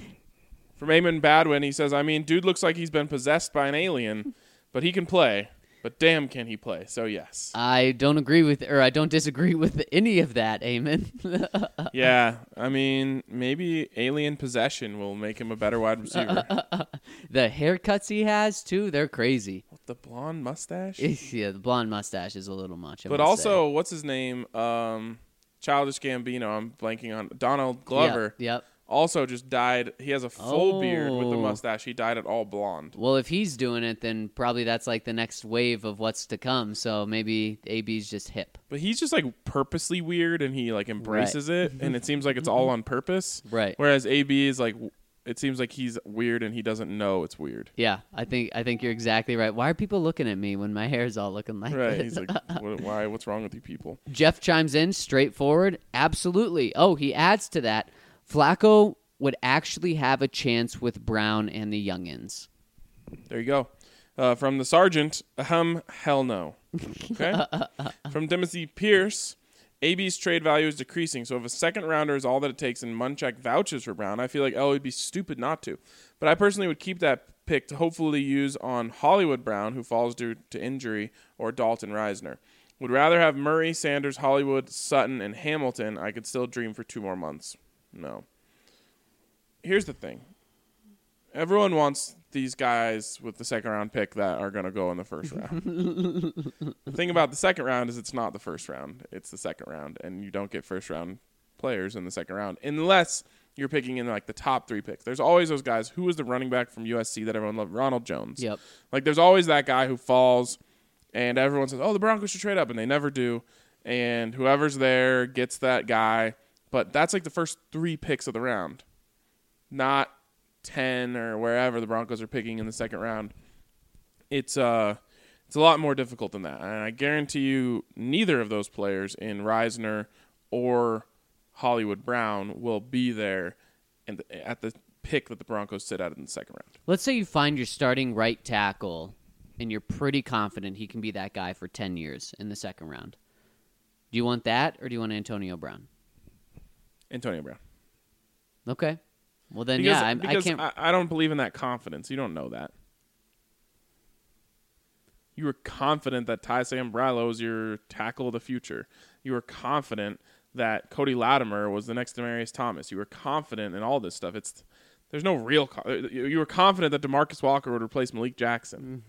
Speaker 1: From Eamon Badwin, he says, I mean, dude looks like he's been possessed by an alien, but he can play. But damn, can he play? So yes.
Speaker 3: I don't disagree with any of that, Eamon.
Speaker 1: Yeah, I mean, maybe alien possession will make him a better wide receiver.
Speaker 3: The haircuts he has, too, they're crazy.
Speaker 1: The blonde mustache?
Speaker 3: Yeah, the blonde mustache is a little much.
Speaker 1: But also, what's his name? Childish Gambino. I'm blanking on Donald Glover.
Speaker 3: Yep.
Speaker 1: Also just died. He has a full beard with the mustache. He dyed it all blonde.
Speaker 3: Well, if he's doing it, then probably that's like the next wave of what's to come. So maybe AB's just hip.
Speaker 1: But he's just like purposely weird, and he like embraces it, and it seems like it's all on purpose.
Speaker 3: Right.
Speaker 1: Whereas AB is like, it seems like he's weird and he doesn't know it's weird.
Speaker 3: Yeah, I think you're exactly right. Why are people looking at me when my hair's all looking like
Speaker 1: Right.
Speaker 3: this?
Speaker 1: He's like, why? What's wrong with you people?
Speaker 3: Jeff chimes in, straightforward. Absolutely. Oh, he adds to that. Flacco would actually have a chance with Brown and the youngins.
Speaker 1: There you go. From the sergeant, hell no. Okay. From Timothy Pierce, AB's trade value is decreasing, so if a second rounder is all that it takes and Munchak vouches for Brown, I feel like would be stupid not to. But I personally would keep that pick to hopefully use on Hollywood Brown, who falls due to injury, or Dalton Reisner. Would rather have Murray, Sanders, Hollywood, Sutton, and Hamilton. I could still dream for 2 more months. No. Here's the thing. Everyone wants these guys with the second round pick that are going to go in the first round. The thing about the second round is it's not the first round. It's the second round, and you don't get first round players in the second round unless you're picking in like the top 3 picks. There's always those guys. Who was the running back from USC that everyone loved? Ronald Jones.
Speaker 3: Yep.
Speaker 1: Like there's always that guy who falls, and everyone says, oh, the Broncos should trade up, and they never do. And whoever's there gets that guy. But that's like the first 3 picks of the round. Not 10 or wherever the Broncos are picking in the second round. It's a lot more difficult than that. And I guarantee you neither of those players in Reisner or Hollywood Brown will be there at the pick that the Broncos sit at in the second round.
Speaker 3: Let's say you find your starting right tackle and you're pretty confident he can be that guy for 10 years in the second round. Do you want that or do you want Antonio Brown?
Speaker 1: Antonio Brown.
Speaker 3: Okay. Well, then,
Speaker 1: because,
Speaker 3: I
Speaker 1: because
Speaker 3: can't.
Speaker 1: I don't believe in that confidence. You don't know that. You were confident that Ty Sambrailo is your tackle of the future. You were confident that Cody Latimer was the next Demaryius Thomas. You were confident in all this stuff. There's no real. You were confident that DeMarcus Walker would replace Malik Jackson.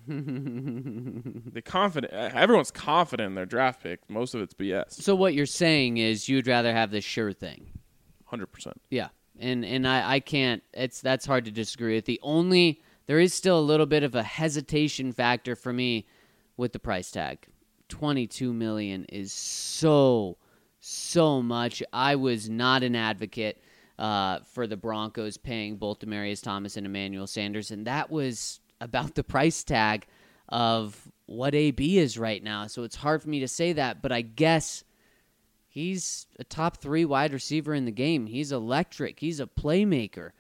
Speaker 1: Everyone's confident in their draft pick. Most of it's BS.
Speaker 3: So what you're saying is you'd rather have the sure thing.
Speaker 1: 100%.
Speaker 3: Yeah. And I can't. That's hard to disagree with. There is still a little bit of a hesitation factor for me with the price tag. $22 million is so much. I was not an advocate for the Broncos paying both Demaryius Thomas and Emmanuel Sanders, and that was about the price tag of what AB is right now. So it's hard for me to say that, but I guess he's a top 3 wide receiver in the game. He's electric. He's a playmaker.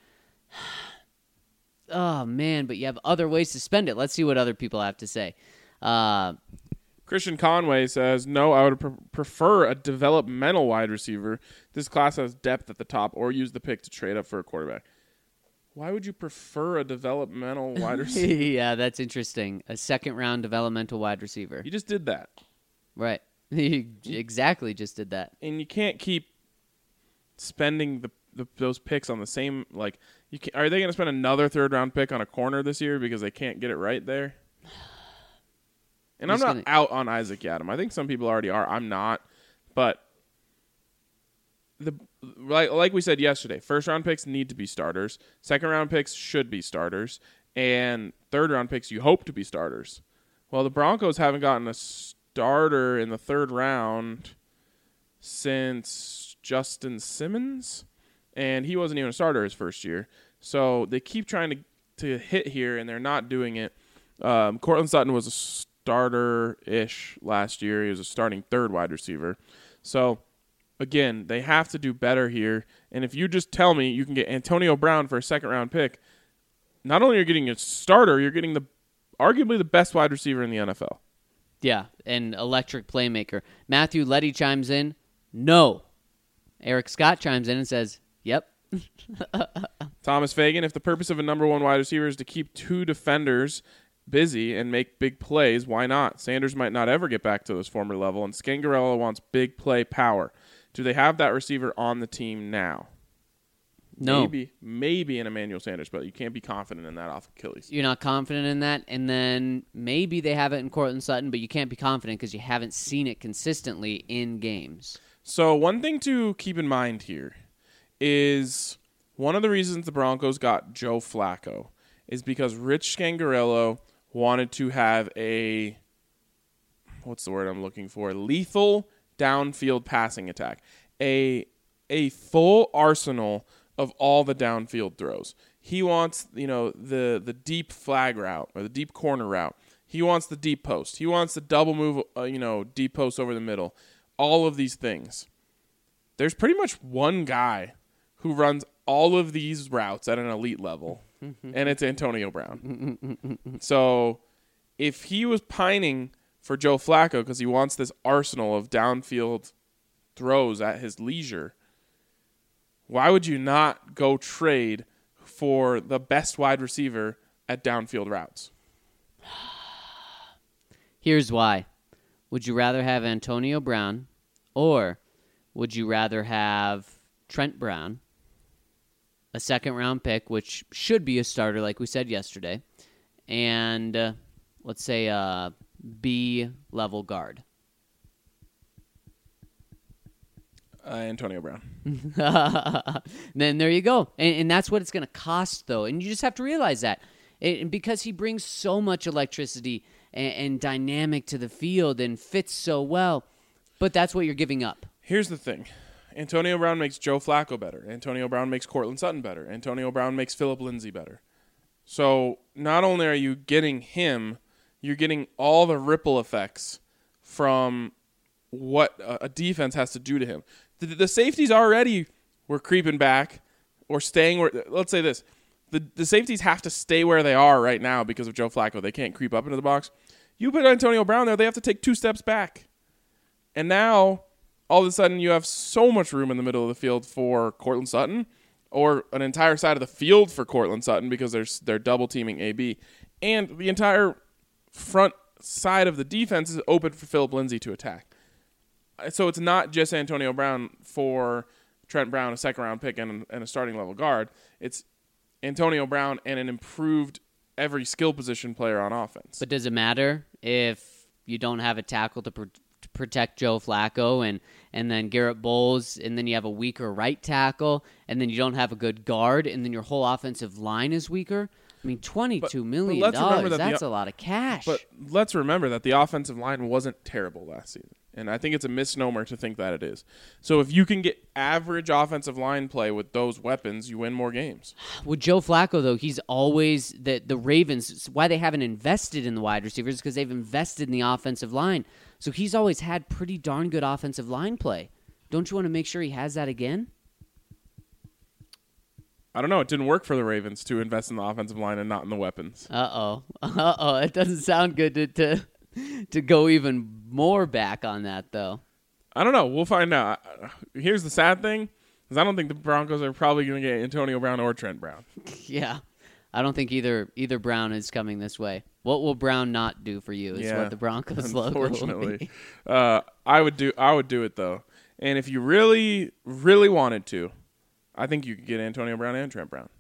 Speaker 3: Oh, man, but you have other ways to spend it. Let's see what other people have to say.
Speaker 1: Christian Conway says, no, I would prefer a developmental wide receiver. This class has depth at the top, or use the pick to trade up for a quarterback. Why would you prefer a developmental wide receiver?
Speaker 3: Yeah, that's interesting. A second-round developmental wide receiver.
Speaker 1: You just did that.
Speaker 3: Right. You exactly just did that.
Speaker 1: And you can't keep spending those picks on the same, like, are they going to spend another third-round pick on a corner this year because they can't get it right there? And I'm not out on Isaac Yiadom. I think some people already are. I'm not. But like we said yesterday, first-round picks need to be starters. Second-round picks should be starters. And third-round picks you hope to be starters. Well, the Broncos haven't gotten a starter in the third round since Justin Simmons, and he wasn't even a starter his first year. So they keep trying to hit here, and they're not doing it. Cortland Sutton was a starter-ish last year. He was a starting third wide receiver. So, again, they have to do better here. And if you just tell me you can get Antonio Brown for a second-round pick, not only are you getting a starter, you're getting arguably the best wide receiver in the NFL.
Speaker 3: Yeah, an electric playmaker. Matthew Letty chimes in, no. Eric Scott chimes in and says, yep.
Speaker 1: Thomas Fagan, if the purpose of a number 1 wide receiver is to keep 2 defenders busy and make big plays, why not? Sanders might not ever get back to his former level, and Scangarello wants big play power. Do they have that receiver on the team now?
Speaker 3: No.
Speaker 1: Maybe in Emmanuel Sanders, but you can't be confident in that off Achilles.
Speaker 3: You're not confident in that, and then maybe they have it in Cortland Sutton, but you can't be confident because you haven't seen it consistently in games.
Speaker 1: So one thing to keep in mind here is one of the reasons the Broncos got Joe Flacco is because Rich Scangarello wanted to have a, what's the word I'm looking for, lethal downfield passing attack, a full arsenal of all the downfield throws. He wants, the deep flag route or the deep corner route. He wants the deep post. He wants the double move, deep post over the middle. All of these things. There's pretty much one guy who runs all of these routes at an elite level, and it's Antonio Brown. So if he was pining for Joe Flacco because he wants this arsenal of downfield throws at his leisure, why would you not go trade for the best wide receiver at downfield routes?
Speaker 3: Here's why. Would you rather have Antonio Brown, or would you rather have Trent Brown, a second-round pick, which should be a starter like we said yesterday, and let's say a B-level guard?
Speaker 1: Antonio Brown.
Speaker 3: Then there you go. And that's what it's going to cost, though. And you just have to realize that. Because he brings so much electricity and dynamic to the field and fits so well. But that's what you're giving up.
Speaker 1: Here's the thing. Antonio Brown makes Joe Flacco better. Antonio Brown makes Cortland Sutton better. Antonio Brown makes Phillip Lindsay better. So not only are you getting him, you're getting all the ripple effects from what a defense has to do to him. The safeties already were creeping back or staying where, let's say this, the safeties have to stay where they are right now because of Joe Flacco. They can't creep up into the box. You put Antonio Brown there, they have to take 2 steps back. And now, all of a sudden, you have so much room in the middle of the field for Cortland Sutton, or an entire side of the field for Cortland Sutton because they're double teaming AB. And the entire front side of the defense is open for Phillip Lindsay to attack. So it's not just Antonio Brown for Trent Brown, a second-round pick, and a starting-level guard. It's Antonio Brown and an improved every skill position player on offense.
Speaker 3: But does it matter if you don't have a tackle to protect Joe Flacco and then Garrett Bowles, and then you have a weaker right tackle, and then you don't have a good guard, and then your whole offensive line is weaker? I mean, $22 million, that's a lot of cash.
Speaker 1: But let's remember that the offensive line wasn't terrible last season. And I think it's a misnomer to think that it is. So if you can get average offensive line play with those weapons, you win more games.
Speaker 3: With Joe Flacco, though, he's always the Ravens. Why they haven't invested in the wide receivers is because they've invested in the offensive line. So he's always had pretty darn good offensive line play. Don't you want to make sure he has that again?
Speaker 1: I don't know. It didn't work for the Ravens to invest in the offensive line and not in the weapons.
Speaker 3: It doesn't sound good to go even more back on that, though.
Speaker 1: I don't know. We'll find out. Here's the sad thing, is I don't think the Broncos are probably going to get Antonio Brown or Trent Brown.
Speaker 3: Yeah. I don't think either Brown is coming this way. What will Brown not do for you is what the Broncos logo will be.
Speaker 1: I would do it, though. And if you really, really wanted to, I think you could get Antonio Brown and Trent Brown.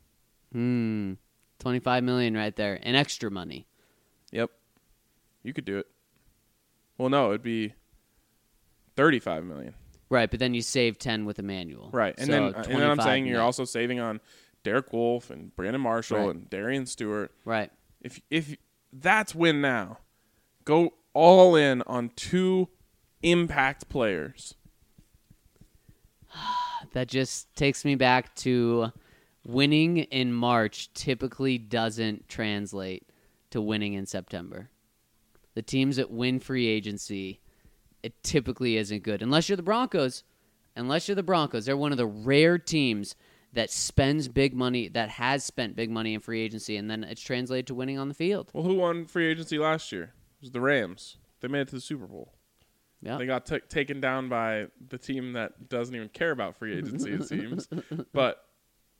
Speaker 3: $25 million right there. And extra money.
Speaker 1: Yep. You could do it. Well, no, it'd be $35 million.
Speaker 3: Right, but then you save 10 with Emmanuel.
Speaker 1: Right, and then I'm saying you're also saving on Derek Wolfe and Brandon Marshall and Darian Stewart.
Speaker 3: Right.
Speaker 1: If that's win now, go all in on 2 impact players.
Speaker 3: That just takes me back to winning in March typically doesn't translate to winning in September. The teams that win free agency, it typically isn't good. Unless you're the Broncos. They're one of the rare teams that spends big money, that has spent big money in free agency, and then it's translated to winning on the field.
Speaker 1: Well, who won free agency last year? It was the Rams. They made it to the Super Bowl.
Speaker 3: Yeah.
Speaker 1: They got taken down by the team that doesn't even care about free agency, it seems. But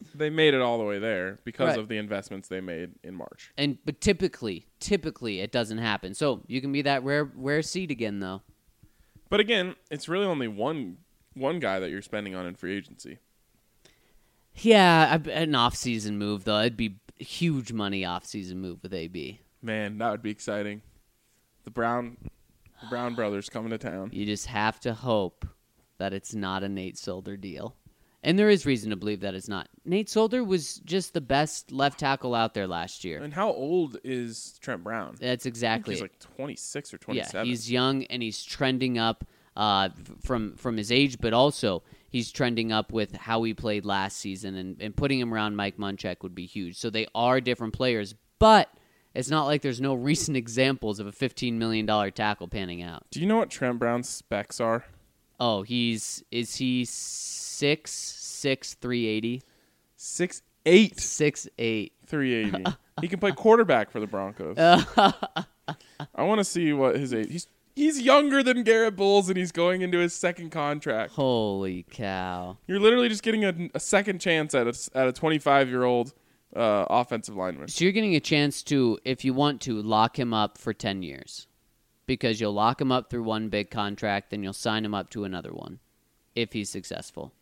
Speaker 1: they made it all the way there because
Speaker 3: Right.
Speaker 1: of the investments they made in March.
Speaker 3: But typically it doesn't happen. So you can be that rare seed again, though.
Speaker 1: But again, it's really only one guy that you're spending on in free agency.
Speaker 3: Yeah, an off-season move though. It'd be huge money off-season move with AB.
Speaker 1: Man, that would be exciting. The Brown brothers coming to town.
Speaker 3: You just have to hope that it's not a Nate Solder deal. And there is reason to believe that it's not. Nate Solder was just the best left tackle out there last year.
Speaker 1: And how old is Trent Brown?
Speaker 3: That's
Speaker 1: I
Speaker 3: exactly
Speaker 1: think he's
Speaker 3: it.
Speaker 1: like 26 or 27.
Speaker 3: Yeah, he's young and he's trending up from his age, but also he's trending up with how he played last season, and putting him around Mike Munchak would be huge. So they are different players, but it's not like there's no recent examples of a $15 million tackle panning out.
Speaker 1: Do you know what Trent Brown's specs are?
Speaker 3: Oh, is he 6'6", 380?
Speaker 1: 6'8",
Speaker 3: 6'8".
Speaker 1: 380. He can play quarterback for the Broncos. I want to see what his age. He's younger than Garrett Bowles, and he's going into his second contract.
Speaker 3: Holy cow.
Speaker 1: You're literally just getting a second chance at a 25-year-old offensive lineman.
Speaker 3: So you're getting a chance to, if you want to, lock him up for 10 years. Because you'll lock him up through one big contract, then you'll sign him up to another one if he's successful.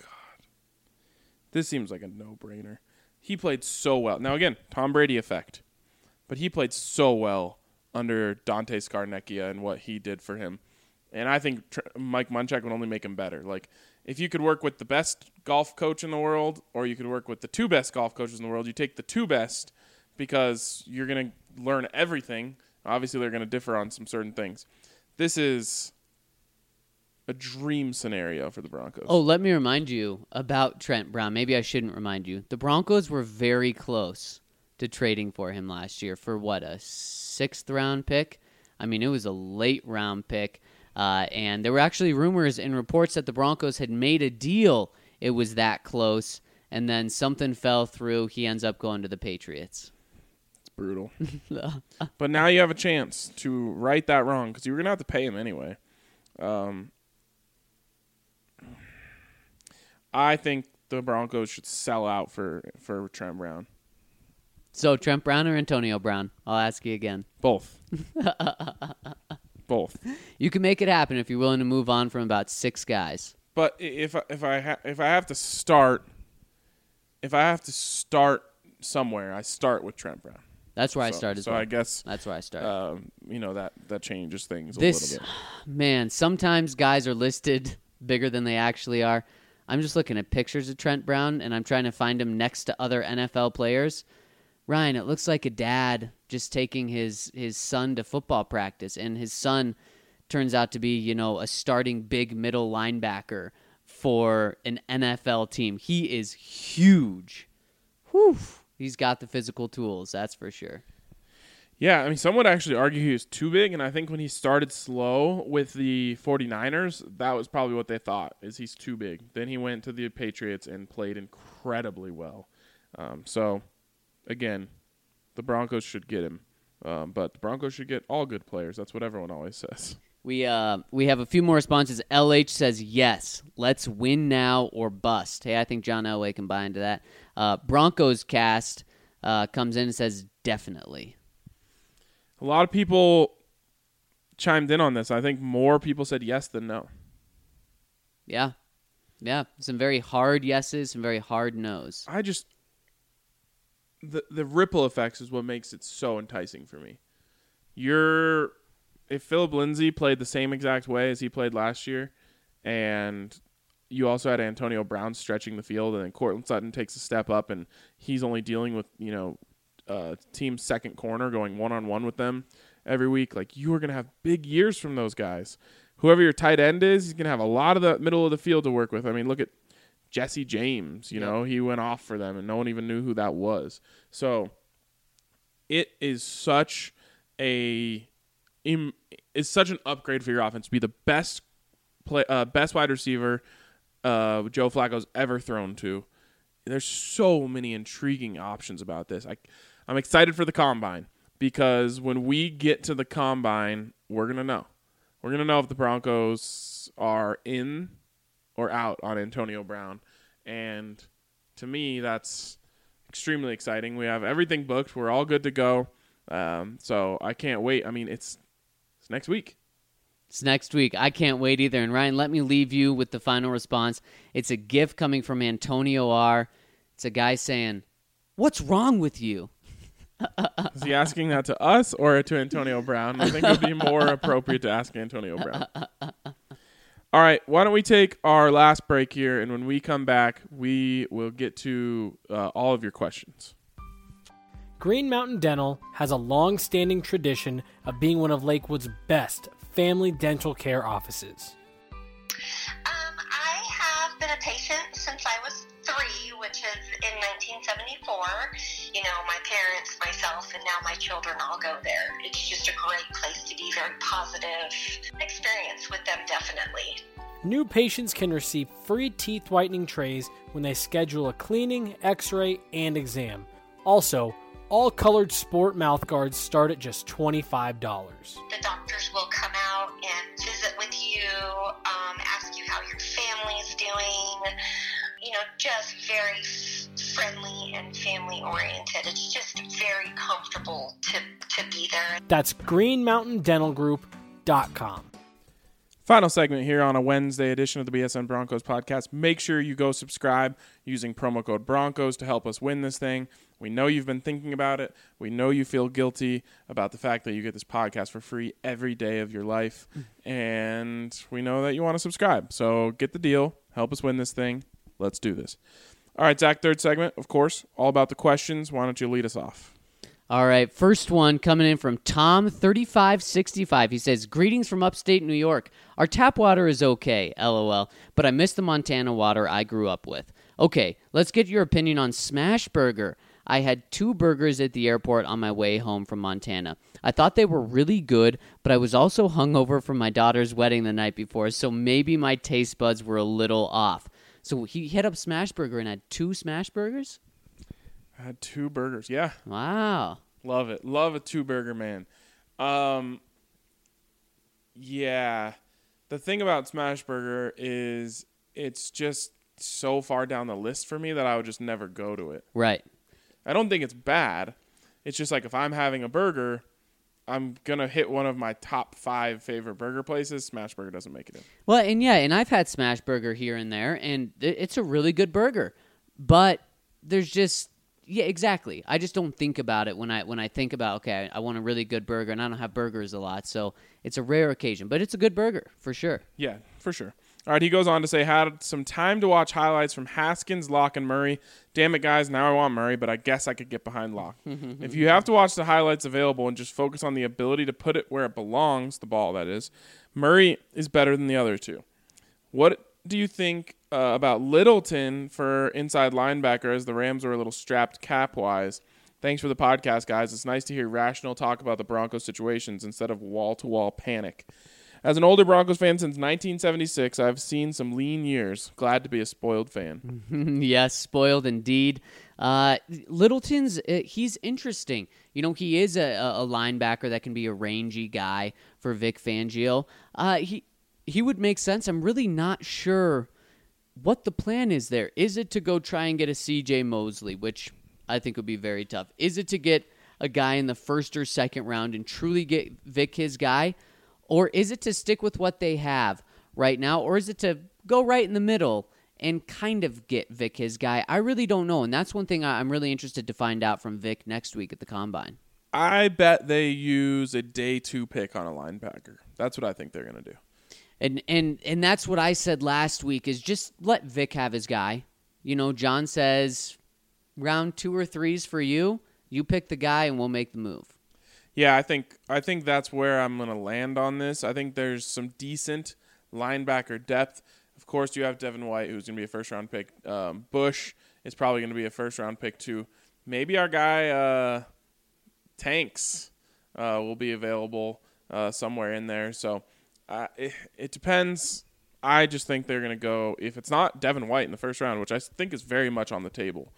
Speaker 1: This seems like a no-brainer. He played so well. Now, again, Tom Brady effect. But he played so well under Dante Scarnecchia and what he did for him. And I think Mike Munchak would only make him better. Like, if you could work with the best golf coach in the world or you could work with the two best golf coaches in the world, you take the two best because you're going to learn everything. Obviously, they're going to differ on some certain things. This is a dream scenario for the Broncos.
Speaker 3: Oh, let me remind you about Trent Brown. Maybe I shouldn't remind you. The Broncos were very close to trading for him last year for what, a 6th-round pick? I mean, it was a late-round pick. And there were actually rumors and reports that the Broncos had made a deal. It was that close. And then something fell through. He ends up going to the Patriots.
Speaker 1: It's brutal. But now you have a chance to right that wrong because you were going to have to pay him anyway. I think the Broncos should sell out for Trent Brown.
Speaker 3: So, Trent Brown or Antonio Brown? I'll ask you again.
Speaker 1: Both. Both.
Speaker 3: You can make it happen if you're willing to move on from about 6 guys.
Speaker 1: But if I have to start somewhere, I start with Trent Brown.
Speaker 3: That's where I start as
Speaker 1: so
Speaker 3: well.
Speaker 1: I guess
Speaker 3: That's where I start.
Speaker 1: that changes things a
Speaker 3: This,
Speaker 1: little bit.
Speaker 3: man, sometimes guys are listed bigger than they actually are. I'm just looking at pictures of Trent Brown, and I'm trying to find him next to other NFL players. Ryan, it looks like a dad just taking his son to football practice, and his son turns out to be, a starting big middle linebacker for an NFL team. He is huge. Whew. He's got the physical tools, that's for sure.
Speaker 1: Yeah, I mean, some would actually argue he was too big, and I think when he started slow with the 49ers, that was probably what they thought, is he's too big. Then he went to the Patriots and played incredibly well. So, again, the Broncos should get him. But the Broncos should get all good players. That's what everyone always says.
Speaker 3: We have a few more responses. LH says, yes, let's win now or bust. Hey, I think John Elway can buy into that. Broncos cast comes in and says, definitely.
Speaker 1: A lot of people chimed in on this. I think more people said yes than no.
Speaker 3: Yeah. Yeah. Some very hard yeses, some very hard nos.
Speaker 1: I just the ripple effects is what makes it so enticing for me. If Philip Lindsay played the same exact way as he played last year, and you also had Antonio Brown stretching the field, and then Courtland Sutton takes a step up, and he's only dealing with team's second corner going one-on-one with them every week. Like, you are going to have big years from those guys. Whoever your tight end is, he's going to have a lot of the middle of the field to work with. I mean, look at Jesse James. You know, he went off for them, and no one even knew who that was. So it is such an upgrade for your offense to be the best wide receiver Joe Flacco's ever thrown to. There's so many intriguing options about this. I'm excited for the Combine because when we get to the Combine, we're going to know. We're going to know if the Broncos are in or out on Antonio Brown. And to me, that's extremely exciting. We have everything booked. We're all good to go. So I can't wait. I mean, it's next week.
Speaker 3: It's next week. I can't wait either. And Ryan, let me leave you with the final response. It's a gift coming from Antonio R. It's a guy saying, "What's wrong with you?"
Speaker 1: Is he asking that to us or to Antonio Brown? I think it would be more appropriate to ask Antonio Brown. All right, why don't we take our last break here, and when we come back, we will get to all of your questions.
Speaker 7: Green Mountain Dental has a long-standing tradition of being one of Lakewood's best family dental care offices.
Speaker 8: I have been a patient since I was 3, which is in 1974. You know, my parents, myself, and now my children all go there. It's just a great place to be, very positive experience with them, definitely.
Speaker 7: New patients can receive free teeth whitening trays when they schedule a cleaning, x-ray, and exam. Also, all colored sport mouth guards start at just $25.
Speaker 8: The doctors will come out and visit with you, ask you how your family's doing, you know, just very friendly and family oriented. It's just very comfortable to be there.
Speaker 7: That's greenmountaindentalgroup.com.
Speaker 1: Final segment here on a Wednesday edition of the BSN Broncos podcast. Make sure you go subscribe using promo code Broncos to help us win this thing. We know you've been thinking about it. We know you feel guilty about the fact that you get this podcast for free every day of your life. And we know that you want to subscribe. So get the deal. Help us win this thing. Let's do this. All right, Zach, third segment, of course, all about the questions. Why don't you lead us off?
Speaker 3: All right, first one coming in from Tom3565. He says, "Greetings from upstate New York. Our tap water is okay, LOL, but I miss the Montana water I grew up with. Okay, let's get your opinion on Smash Burger. I had 2 burgers at the airport on my way home from Montana. I thought they were really good, but I was also hungover from my daughter's wedding the night before, so maybe my taste buds were a little off." So he hit up Smash Burger and had 2 Smash Burgers?
Speaker 1: I had 2 burgers. Yeah.
Speaker 3: Wow.
Speaker 1: Love it. Love a 2-burger man. Yeah. The thing about Smash Burger is it's just so far down the list for me that I would just never go to it.
Speaker 3: Right.
Speaker 1: I don't think it's bad. It's just like if I'm having a burger, I'm going to hit one of my top 5 favorite burger places. Smash Burger doesn't make it in.
Speaker 3: Well, and I've had Smash Burger here and there, and it's a really good burger. But there's just... Yeah, exactly. I just don't think about it when I think about, okay, I want a really good burger, and I don't have burgers a lot, so it's a rare occasion. But it's a good burger, for sure.
Speaker 1: Yeah, for sure. All right, he goes on to say, had some time to watch highlights from Haskins, Locke, and Murray. Damn it, guys, now I want Murray, but I guess I could get behind Locke. If you have to watch the highlights available and just focus on the ability to put it where it belongs, the ball, that is, Murray is better than the other 2. What do you think about Littleton for inside linebacker, as the Rams were a little strapped cap-wise? Thanks for the podcast, guys. It's nice to hear rational talk about the Broncos situations instead of wall-to-wall panic. As an older Broncos fan since 1976, I've seen some lean years. Glad to be a spoiled fan.
Speaker 3: Yes, spoiled indeed. Littleton's, he's interesting. You know, he is a linebacker that can be a rangy guy for Vic Fangio. He would make sense. I'm really not sure what the plan is there. Is it to go try and get a C.J. Mosley, which I think would be very tough? Is it to get a guy in the first or second round and truly get Vic his guy? Or is it to stick with what they have right now? Or is it to go right in the middle and kind of get Vic his guy? I really don't know, and that's one thing I'm really interested to find out from Vic next week at the Combine.
Speaker 1: I bet they use a day 2 pick on a linebacker. That's what I think they're going to do.
Speaker 3: And that's what I said last week, is just let Vic have his guy. You know, John says round 2 or 3's for you. You pick the guy and we'll make the move.
Speaker 1: Yeah, I think that's where I'm going to land on this. I think there's some decent linebacker depth. Of course, you have Devin White, who's going to be a first-round pick. Bush is probably going to be a first-round pick, too. Maybe our guy Tanks will be available somewhere in there. So it depends. I just think they're going to go, if it's not Devin White in the first round, which I think is very much on the table,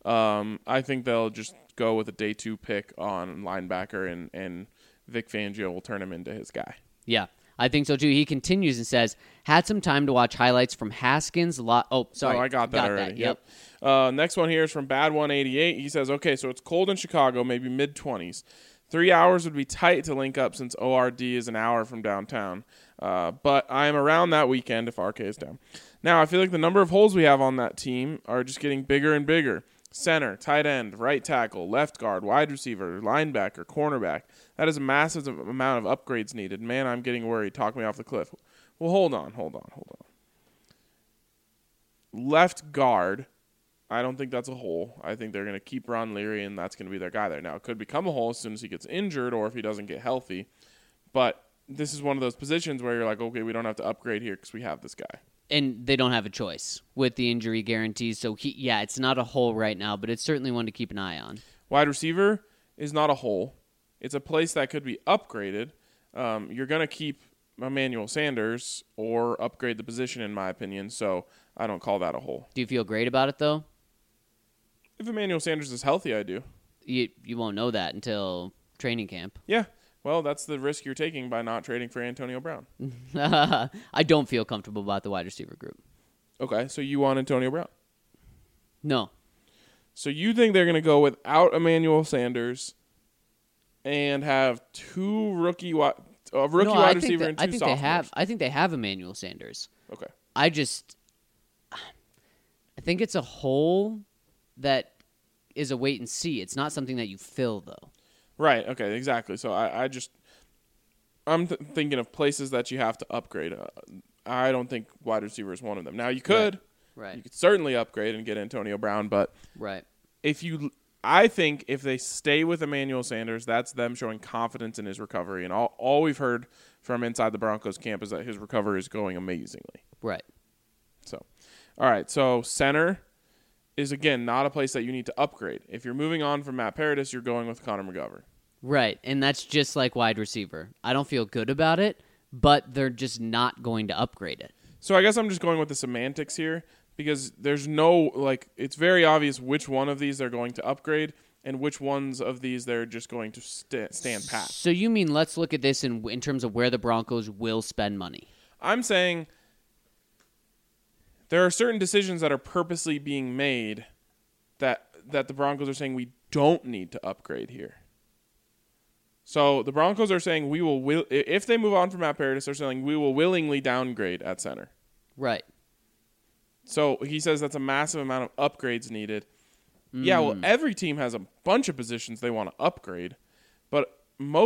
Speaker 1: I think they'll just go with a day 2 pick on linebacker, and Vic Fangio will turn him into his guy.
Speaker 3: Yeah, I think so too. He continues and says, had some time to watch highlights from Haskins. Sorry.
Speaker 1: Oh, I got that already.
Speaker 3: Yep.
Speaker 1: Next one here is from Bad188. He says, okay, so it's cold in Chicago, maybe mid-20s. 3 hours would be tight to link up since ORD is an hour from downtown. But I am around that weekend if RK is down. Now, I feel like the number of holes we have on that team are just getting bigger and bigger. Center, tight end, right tackle, left guard, wide receiver, linebacker, cornerback. That is a massive amount of upgrades needed. Man, I'm getting worried. Talk me off the cliff. Well, hold on. Left guard, I don't think that's a hole. I think they're going to keep Ron Leary, and that's going to be their guy there. Now, it could become a hole as soon as he gets injured or if he doesn't get healthy. But this is one of those positions where you're like, okay, we don't have to upgrade here because we have this guy.
Speaker 3: And they don't have a choice with the injury guarantees. So, it's not a hole right now, but it's certainly one to keep an eye on.
Speaker 1: Wide receiver is not a hole. It's a place that could be upgraded. You're going to keep Emmanuel Sanders or upgrade the position, in my opinion, so I don't call that a hole.
Speaker 3: Do you feel great about it, though?
Speaker 1: If Emmanuel Sanders is healthy, I do.
Speaker 3: You won't know that until training camp.
Speaker 1: Yeah. Well, that's the risk you're taking by not trading for Antonio Brown.
Speaker 3: I don't feel comfortable about the wide receiver group.
Speaker 1: Okay, so you want Antonio Brown.
Speaker 3: No.
Speaker 1: So you think they're going to go without Emmanuel Sanders and have two rookie wide receiver and two sophomores?
Speaker 3: I think they have Emmanuel Sanders.
Speaker 1: Okay.
Speaker 3: I think it's a hole that is a wait and see. It's not something that you fill, though.
Speaker 1: Right. Okay. Exactly. So I'm thinking of places that you have to upgrade. I don't think wide receiver is one of them. Now you could,
Speaker 3: right?
Speaker 1: You could certainly upgrade and get Antonio Brown, but
Speaker 3: right.
Speaker 1: I think if they stay with Emmanuel Sanders, that's them showing confidence in his recovery. And all we've heard from inside the Broncos camp is that his recovery is going amazingly.
Speaker 3: Right.
Speaker 1: So, all right. So center is, again, not a place that you need to upgrade. If you're moving on from Matt Paradis, you're going with Connor McGovern.
Speaker 3: Right, and that's just like wide receiver. I don't feel good about it, but they're just not going to upgrade it.
Speaker 1: So I guess I'm just going with the semantics here because there's no, it's very obvious which one of these they're going to upgrade and which ones of these they're just going to stand pat.
Speaker 3: So you mean let's look at this in terms of where the Broncos will spend money.
Speaker 1: I'm saying there are certain decisions that are purposely being made that the Broncos are saying we don't need to upgrade here. So the Broncos are saying we will if they move on from Matt Paradis, they're saying we will willingly downgrade at center.
Speaker 3: Right.
Speaker 1: So he says that's a massive amount of upgrades needed. Yeah, well, every team has a bunch of positions they want to upgrade, but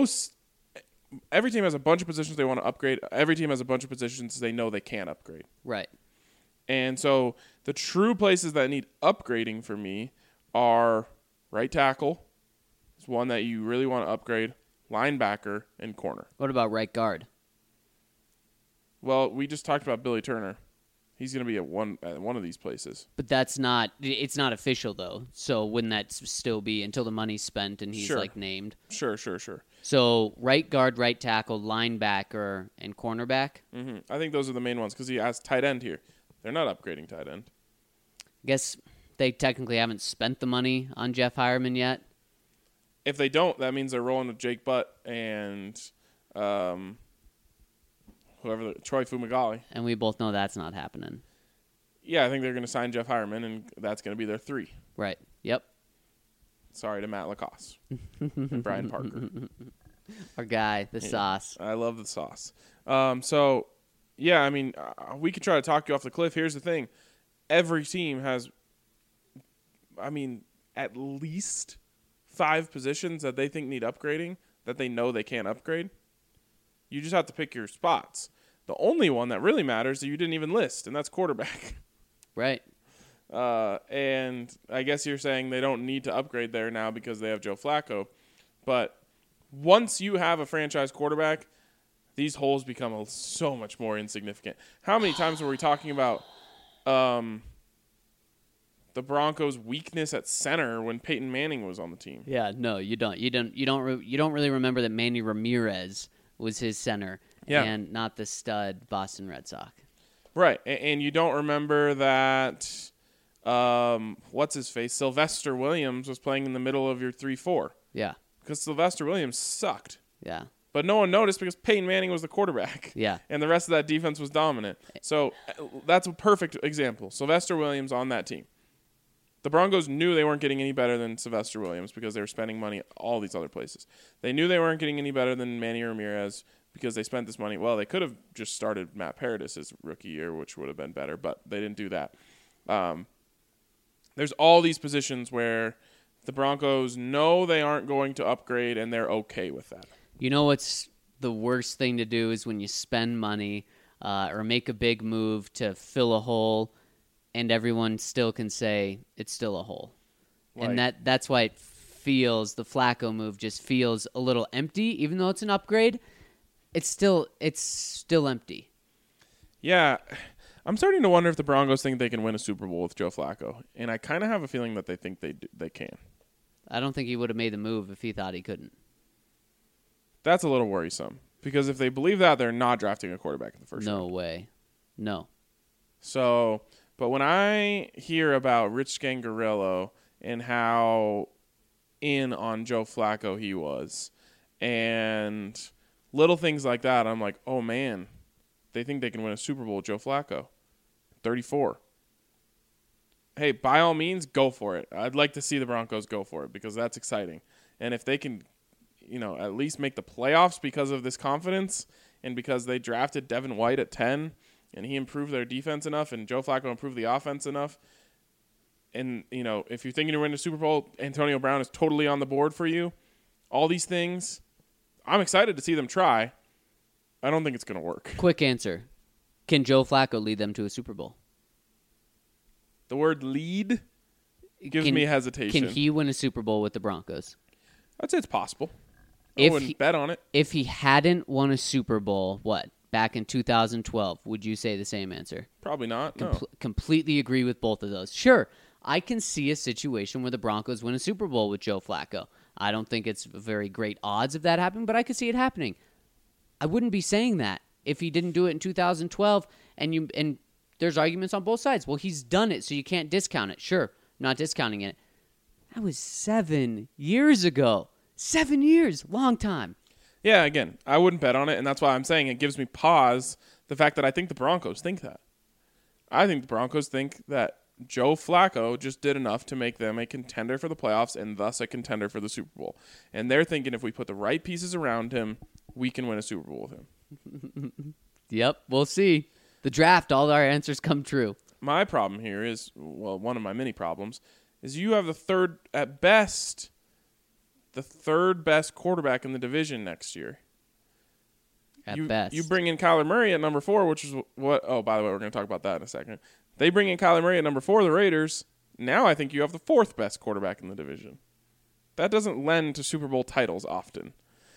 Speaker 1: every team has a bunch of positions they want to upgrade. Every team has a bunch of positions they know they can't upgrade.
Speaker 3: Right.
Speaker 1: And so the true places that need upgrading for me are right tackle. It's one that you really want to upgrade. Linebacker and corner.
Speaker 3: What about right guard?
Speaker 1: Well, we just talked about Billy Turner. He's going to be at one of these places.
Speaker 3: But it's not official, though. So wouldn't that still be until the money's spent and he's, named?
Speaker 1: Sure.
Speaker 3: So right guard, right tackle, linebacker, and cornerback?
Speaker 1: Mm-hmm. I think those are the main ones because he has tight end here. They're not upgrading tight end.
Speaker 3: I guess they technically haven't spent the money on Jeff Hireman yet.
Speaker 1: If they don't, that means they're rolling with Jake Butt and Troy Fumagalli.
Speaker 3: And we both know that's not happening.
Speaker 1: Yeah, I think they're going to sign Jeff Hireman, and that's going to be their 3.
Speaker 3: Right. Yep.
Speaker 1: Sorry to Matt Lacoste and Brian Parker.
Speaker 3: Our guy, the sauce.
Speaker 1: I love the sauce. So, yeah, I mean, we could try to talk you off the cliff. Here's the thing. Every team has, at least 5 positions that they think need upgrading that they know they can't upgrade. You just have to pick your spots. The only one that really matters that you didn't even list, and that's quarterback.
Speaker 3: Right.
Speaker 1: And I guess you're saying they don't need to upgrade there now because they have Joe Flacco. But once you have a franchise quarterback, these holes become so much more insignificant. How many times were we talking about the Broncos' weakness at center when Peyton Manning was on the team?
Speaker 3: Yeah, no, you don't. You don't really remember that Manny Ramirez was his center, and not the stud Boston Red Sox. Right,
Speaker 1: and you don't remember that. What's his face? Sylvester Williams was playing in the middle of your 3-4.
Speaker 3: Yeah,
Speaker 1: because Sylvester Williams sucked.
Speaker 3: Yeah,
Speaker 1: But no one noticed because Peyton Manning was the quarterback.
Speaker 3: Yeah.
Speaker 1: And the rest of that defense was dominant. So that's a perfect example. Sylvester Williams on that team. The Broncos knew they weren't getting any better than Sylvester Williams because they were spending money all these other places. They knew they weren't getting any better than Manny Ramirez because they spent this money. Well, they could have just started Matt Paradis his rookie year, which would have been better, but they didn't do that. There's all these positions where the Broncos know they aren't going to upgrade, and they're okay with that.
Speaker 3: You know what's the worst thing to do is when you spend money or make a big move to fill a hole, and everyone still can say it's still a hole. And that's why it feels, the Flacco move just feels a little empty, even though it's an upgrade. It's still empty.
Speaker 1: Yeah, I'm starting to wonder if the Broncos think they can win a Super Bowl with Joe Flacco, and I kind of have a feeling that they think they can.
Speaker 3: I don't think he would have made the move if he thought he couldn't.
Speaker 1: That's a little worrisome because if they believe that, they're not drafting a quarterback in the first round.
Speaker 3: No way. No.
Speaker 1: So, but when I hear about Rich Scangarello and how in on Joe Flacco he was, and little things like that, I'm like, oh man, they think they can win a Super Bowl with Joe Flacco. 34. Hey, by all means, go for it. I'd like to see the Broncos go for it because that's exciting. And if they can, at least make the playoffs because of this confidence and because they drafted Devin White at 10 and he improved their defense enough and Joe Flacco improved the offense enough. And, if you're thinking to win a Super Bowl, Antonio Brown is totally on the board for you. All these things, I'm excited to see them try. I don't think it's going to work.
Speaker 3: Quick answer. Can Joe Flacco lead them to a Super Bowl?
Speaker 1: The word lead gives me hesitation.
Speaker 3: Can he win a Super Bowl with the Broncos?
Speaker 1: I'd say it's possible. I wouldn't bet on it.
Speaker 3: If he hadn't won a Super Bowl, back in 2012, would you say the same answer?
Speaker 1: Probably not, no.
Speaker 3: Completely agree with both of those. Sure, I can see a situation where the Broncos win a Super Bowl with Joe Flacco. I don't think it's very great odds of that happening, but I could see it happening. I wouldn't be saying that if he didn't do it in 2012, and there's arguments on both sides. Well, he's done it, so you can't discount it. Sure, I'm not discounting it. That was 7 years ago. 7 years, long time.
Speaker 1: Yeah, again, I wouldn't bet on it, and that's why I'm saying it gives me pause, the fact that I think the Broncos think that. I think the Broncos think that Joe Flacco just did enough to make them a contender for the playoffs and thus a contender for the Super Bowl. And they're thinking if we put the right pieces around him, we can win a Super Bowl with him.
Speaker 3: Yep, we'll see. The draft, all our answers come true.
Speaker 1: My problem here is, one of my many problems, is you have the third best quarterback in the division next year.
Speaker 3: At best.
Speaker 1: You bring in Kyler Murray at number 4, which is what... Oh, by the way, we're going to talk about that in a second. They bring in Kyler Murray at number 4, the Raiders. Now I think you have the 4th best quarterback in the division. That doesn't lend to Super Bowl titles often.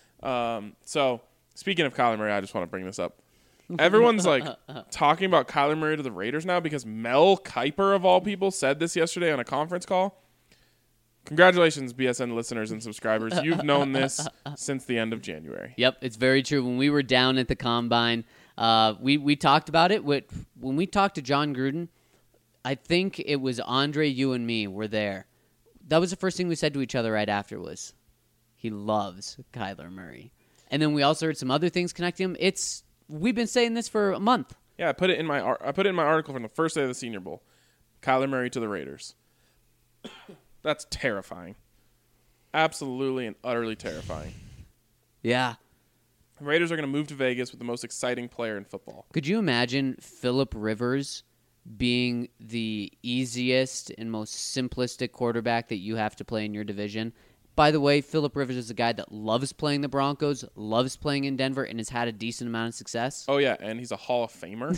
Speaker 1: So, speaking of Kyler Murray, I just want to bring this up. Everyone's talking about Kyler Murray to the Raiders now because Mel Kiper, of all people, said this yesterday on a conference call. Congratulations, BSN listeners and subscribers. You've known this since the end of January.
Speaker 3: Yep, it's very true. When we were down at the Combine, we talked about it. When we talked to John Gruden, I think it was Andre, you and me were there. That was the first thing we said to each other right after was, he loves Kyler Murray. And then we also heard some other things connecting him. We've been saying this for a month.
Speaker 1: Yeah, I put it in my article from the first day of the Senior Bowl. Kyler Murray to the Raiders. That's terrifying. Absolutely and utterly terrifying.
Speaker 3: Yeah.
Speaker 1: The Raiders are going to move to Vegas with the most exciting player in football.
Speaker 3: Could you imagine Phillip Rivers being the easiest and most simplistic quarterback that you have to play in your division? By the way, Phillip Rivers is a guy that loves playing the Broncos, loves playing in Denver, and has had a decent amount of success.
Speaker 1: Oh, yeah, and he's a Hall of Famer.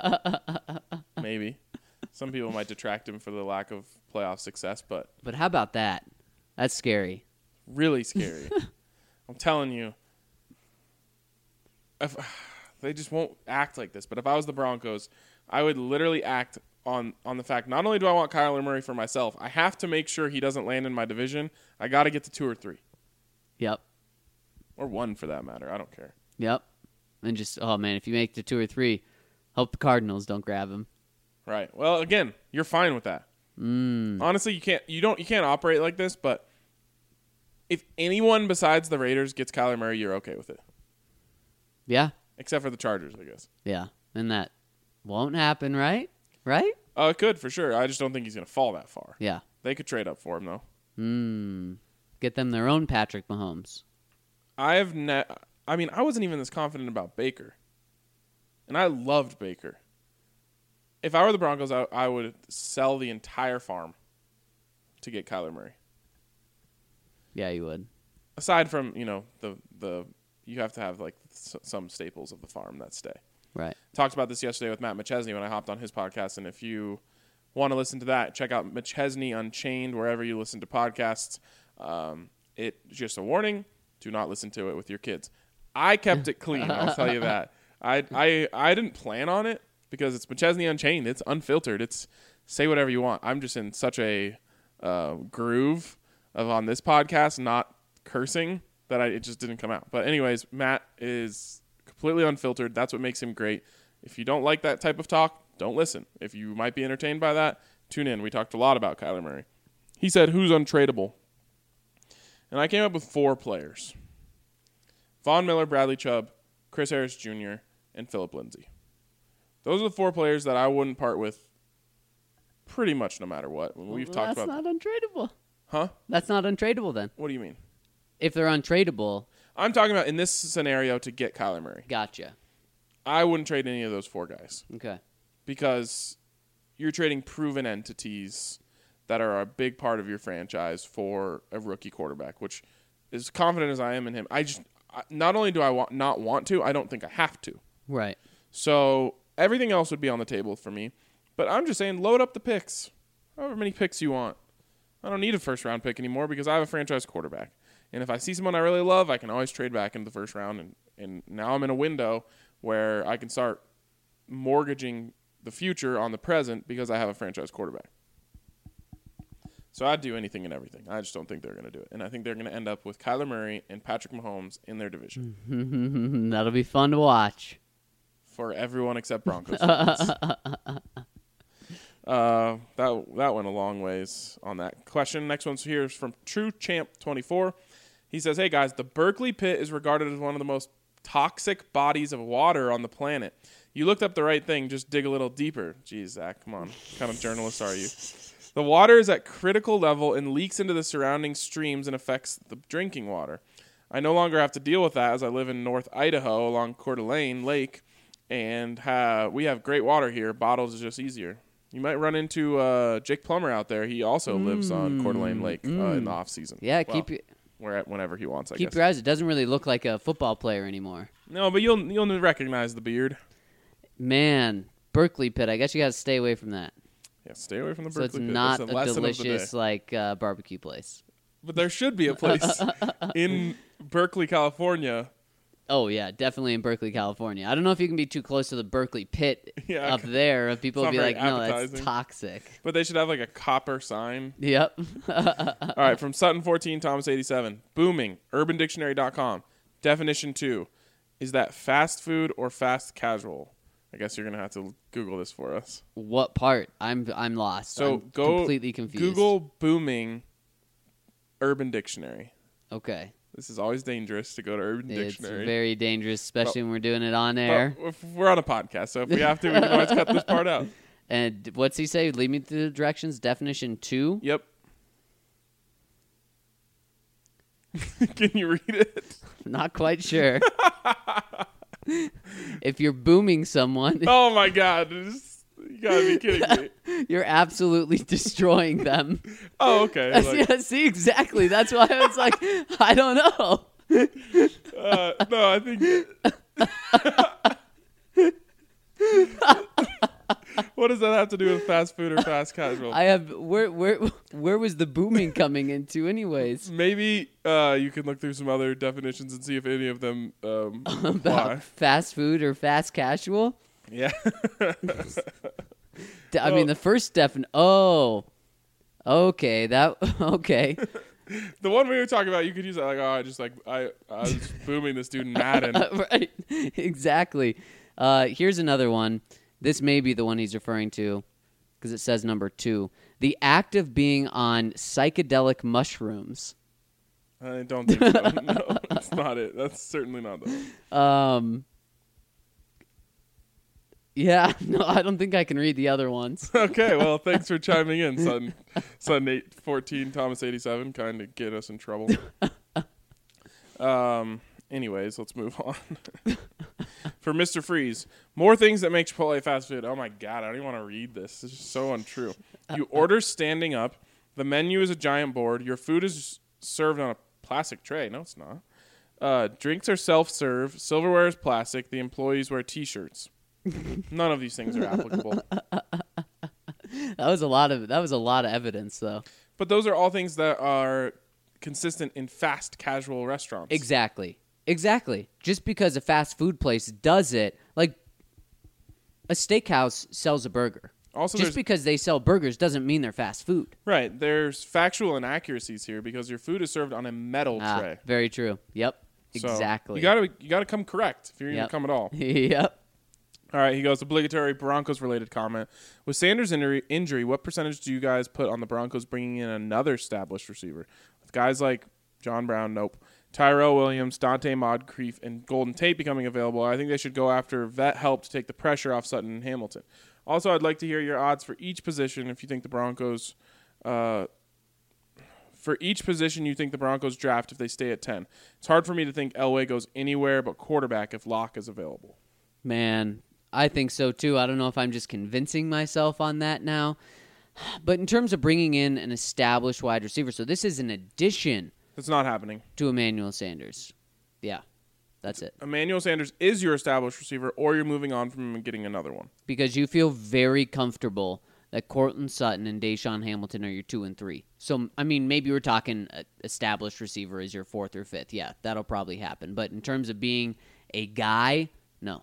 Speaker 1: Maybe. Some people might detract him for the lack of playoff success, but...
Speaker 3: But how about that? That's scary.
Speaker 1: Really scary. I'm telling you. They just won't act like this. But if I was the Broncos, I would literally act on the fact, not only do I want Kyler Murray for myself, I have to make sure he doesn't land in my division. I got to get to 2 or 3.
Speaker 3: Yep.
Speaker 1: Or 1 for that matter. I don't care.
Speaker 3: Yep. And just, oh man, if you make it to 2 or 3, hope the Cardinals don't grab him.
Speaker 1: Right. Well, again, you're fine with that. Honestly, you can't operate like this, but if anyone besides the Raiders gets Kyler Murray, you're okay with it.
Speaker 3: Yeah.
Speaker 1: except for the Chargers, I guess.
Speaker 3: Yeah. And that won't happen, right? Right?
Speaker 1: Oh, it could for sure. I just don't think he's going to fall that far.
Speaker 3: Yeah.
Speaker 1: They could trade up for him though.
Speaker 3: Get them their own Patrick Mahomes.
Speaker 1: I wasn't even this confident about Baker, and I loved Baker. If I were the Broncos, I would sell the entire farm to get Kyler Murray.
Speaker 3: Yeah, you would.
Speaker 1: Aside from the you have to have like some staples of the farm that stay.
Speaker 3: Right.
Speaker 1: Talked about this yesterday with Matt McChesney when I hopped on his podcast, and if you want to listen to that, check out McChesney Unchained wherever you listen to podcasts. It just a warning: do not listen to it with your kids. I kept it clean. I'll tell you that. I didn't plan on it because it's McChesney Unchained. It's unfiltered. It's say whatever you want. I'm just in such a groove of on this podcast not cursing that it just didn't come out. But anyways, Matt is completely unfiltered. That's what makes him great. If you don't like that type of talk, don't listen. If you might be entertained by that, tune in. We talked a lot about Kyler Murray. He said, who's untradeable? And I came up with 4 players. Von Miller, Bradley Chubb, Chris Harris Jr., and Phillip Lindsay. Those are the 4 players that I wouldn't part with pretty much no matter what. We've talked about.
Speaker 3: That's not untradeable.
Speaker 1: Huh?
Speaker 3: That's not untradeable then.
Speaker 1: What do you mean?
Speaker 3: If they're untradeable.
Speaker 1: I'm talking about in this scenario to get Kyler Murray.
Speaker 3: Gotcha.
Speaker 1: I wouldn't trade any of those 4 guys.
Speaker 3: Okay.
Speaker 1: Because you're trading proven entities that are a big part of your franchise for a rookie quarterback, which as confident as I am in him, not only do I not want to, I don't think I have to.
Speaker 3: Right.
Speaker 1: So everything else would be on the table for me. But I'm just saying, load up the picks. However many picks you want. I don't need a first-round pick anymore because I have a franchise quarterback. And if I see someone I really love, I can always trade back into the first round. And now I'm in a window where I can start mortgaging the future on the present because I have a franchise quarterback. So I'd do anything and everything. I just don't think they're going to do it. And I think they're going to end up with Kyler Murray and Patrick Mahomes in their division.
Speaker 3: That'll be fun to watch.
Speaker 1: For everyone except Broncos fans. That went a long ways on that question. Next one's here is from TrueChamp24. He says, hey, guys, the Berkeley Pit is regarded as one of the most toxic bodies of water on the planet. You looked up the right thing. Just dig a little deeper. Jeez, Zach, come on. What kind of journalist are you? The water is at critical level and leaks into the surrounding streams and affects the drinking water. I no longer have to deal with that as I live in North Idaho along Coeur d'Alene Lake, and we have great water here. Bottles is just easier. You might run into Jake Plummer out there. He also lives on Coeur d'Alene Lake in the off season.
Speaker 3: Yeah,
Speaker 1: whenever he wants.
Speaker 3: Keep your eyes. It doesn't really look like a football player anymore.
Speaker 1: No, but you'll recognize the beard.
Speaker 3: Man, Berkeley Pit. I guess you got to stay away from that.
Speaker 1: Yeah, stay away from the
Speaker 3: So
Speaker 1: Berkeley
Speaker 3: it's
Speaker 1: Pit.
Speaker 3: not
Speaker 1: That's
Speaker 3: a
Speaker 1: lesson of the
Speaker 3: delicious
Speaker 1: day.
Speaker 3: barbecue place.
Speaker 1: But there should be a place in Berkeley, California.
Speaker 3: Oh yeah, definitely in Berkeley, California. I don't know if you can be too close to the Berkeley Pit
Speaker 1: Yeah,
Speaker 3: up there. If people
Speaker 1: it's
Speaker 3: will be
Speaker 1: not
Speaker 3: like,
Speaker 1: very
Speaker 3: no, that's
Speaker 1: appetizing.
Speaker 3: toxic.
Speaker 1: But they should have like a copper sign.
Speaker 3: Yep.
Speaker 1: All right, from Sutton14, Thomas87. Booming, UrbanDictionary.com. Definition 2. Is that fast food or fast casual? I guess you're going to have to Google this for us.
Speaker 3: What part? I'm lost.
Speaker 1: So
Speaker 3: I'm
Speaker 1: go
Speaker 3: completely confused.
Speaker 1: Google booming Urban Dictionary.
Speaker 3: Okay.
Speaker 1: This is always dangerous to go to Urban Dictionary.
Speaker 3: It's very dangerous, especially when we're doing it on air.
Speaker 1: But we're on a podcast, so if we have to, we can always cut this part out.
Speaker 3: And what's he say? Lead me through the directions. Definition 2.
Speaker 1: Yep. Can you read it?
Speaker 3: Not quite sure. If you're booming someone,
Speaker 1: Oh my God! You gotta be kidding me.
Speaker 3: you're absolutely destroying them.
Speaker 1: Oh, okay. Like,
Speaker 3: Yeah, see, exactly. That's why I was like, I don't know.
Speaker 1: no, I think. What does that have to do with fast food or fast casual?
Speaker 3: I have where was the booming coming into, anyways?
Speaker 1: Maybe you can look through some other definitions and see if any of them apply.
Speaker 3: About fast food or fast casual?
Speaker 1: Yeah.
Speaker 3: I mean, the first definition. Oh, okay. Okay.
Speaker 1: The one we were talking about, you could use that like, I was booming this dude in Madden.
Speaker 3: Right. Exactly. Here's another one. This may be the one he's referring to because it says number 2. The act of being on psychedelic mushrooms.
Speaker 1: I don't think so. No, that's not it. That's certainly not the one.
Speaker 3: Yeah, no, I don't think I can read the other ones.
Speaker 1: Okay, well, thanks for chiming in, son 814, Thomas 87, kind of get us in trouble. Anyways, let's move on. For Mr. Freeze, more things that make Chipotle fast food. Oh my God, I don't even want to read this. This is so untrue. You order standing up. The menu is a giant board. Your food is served on a plastic tray. No, it's not. Drinks are self-serve. Silverware is plastic. The employees wear T-shirts. None of these things are applicable.
Speaker 3: That was a lot of evidence, though.
Speaker 1: But those are all things that are consistent in fast casual restaurants.
Speaker 3: Exactly. Just because a fast food place does it, like a steakhouse sells a burger.
Speaker 1: Also,
Speaker 3: just because they sell burgers doesn't mean they're fast food.
Speaker 1: Right. There's factual inaccuracies here because your food is served on a metal tray.
Speaker 3: Very true. Yep.
Speaker 1: So
Speaker 3: Exactly.
Speaker 1: you gotta come correct if you're going to come at all.
Speaker 3: Yep.
Speaker 1: All right, he goes, obligatory Broncos-related comment. With Sanders' injury, what percentage do you guys put on the Broncos bringing in another established receiver? With guys like John Brown, nope. Tyrell Williams, Dante Moncrief, and Golden Tate becoming available, I think they should go after vet help to take the pressure off Sutton and Hamilton. Also, I'd like to hear your odds for each position if you think the Broncos for each position you think the Broncos draft if they stay at 10. It's hard for me to think Elway goes anywhere but quarterback if Locke is available.
Speaker 3: Man, I think so too. I don't know if I'm just convincing myself on that now. But in terms of bringing in an established wide receiver, so this is an addition.
Speaker 1: That's not happening.
Speaker 3: To Emmanuel Sanders. Yeah, that's it.
Speaker 1: Emmanuel Sanders is your established receiver, or you're moving on from him and getting another one.
Speaker 3: Because you feel very comfortable that Cortland Sutton and Deshaun Hamilton are your 2 and 3. So, I mean, maybe we're talking established receiver is your 4th or 5th. Yeah, that'll probably happen. But in terms of being a guy, no.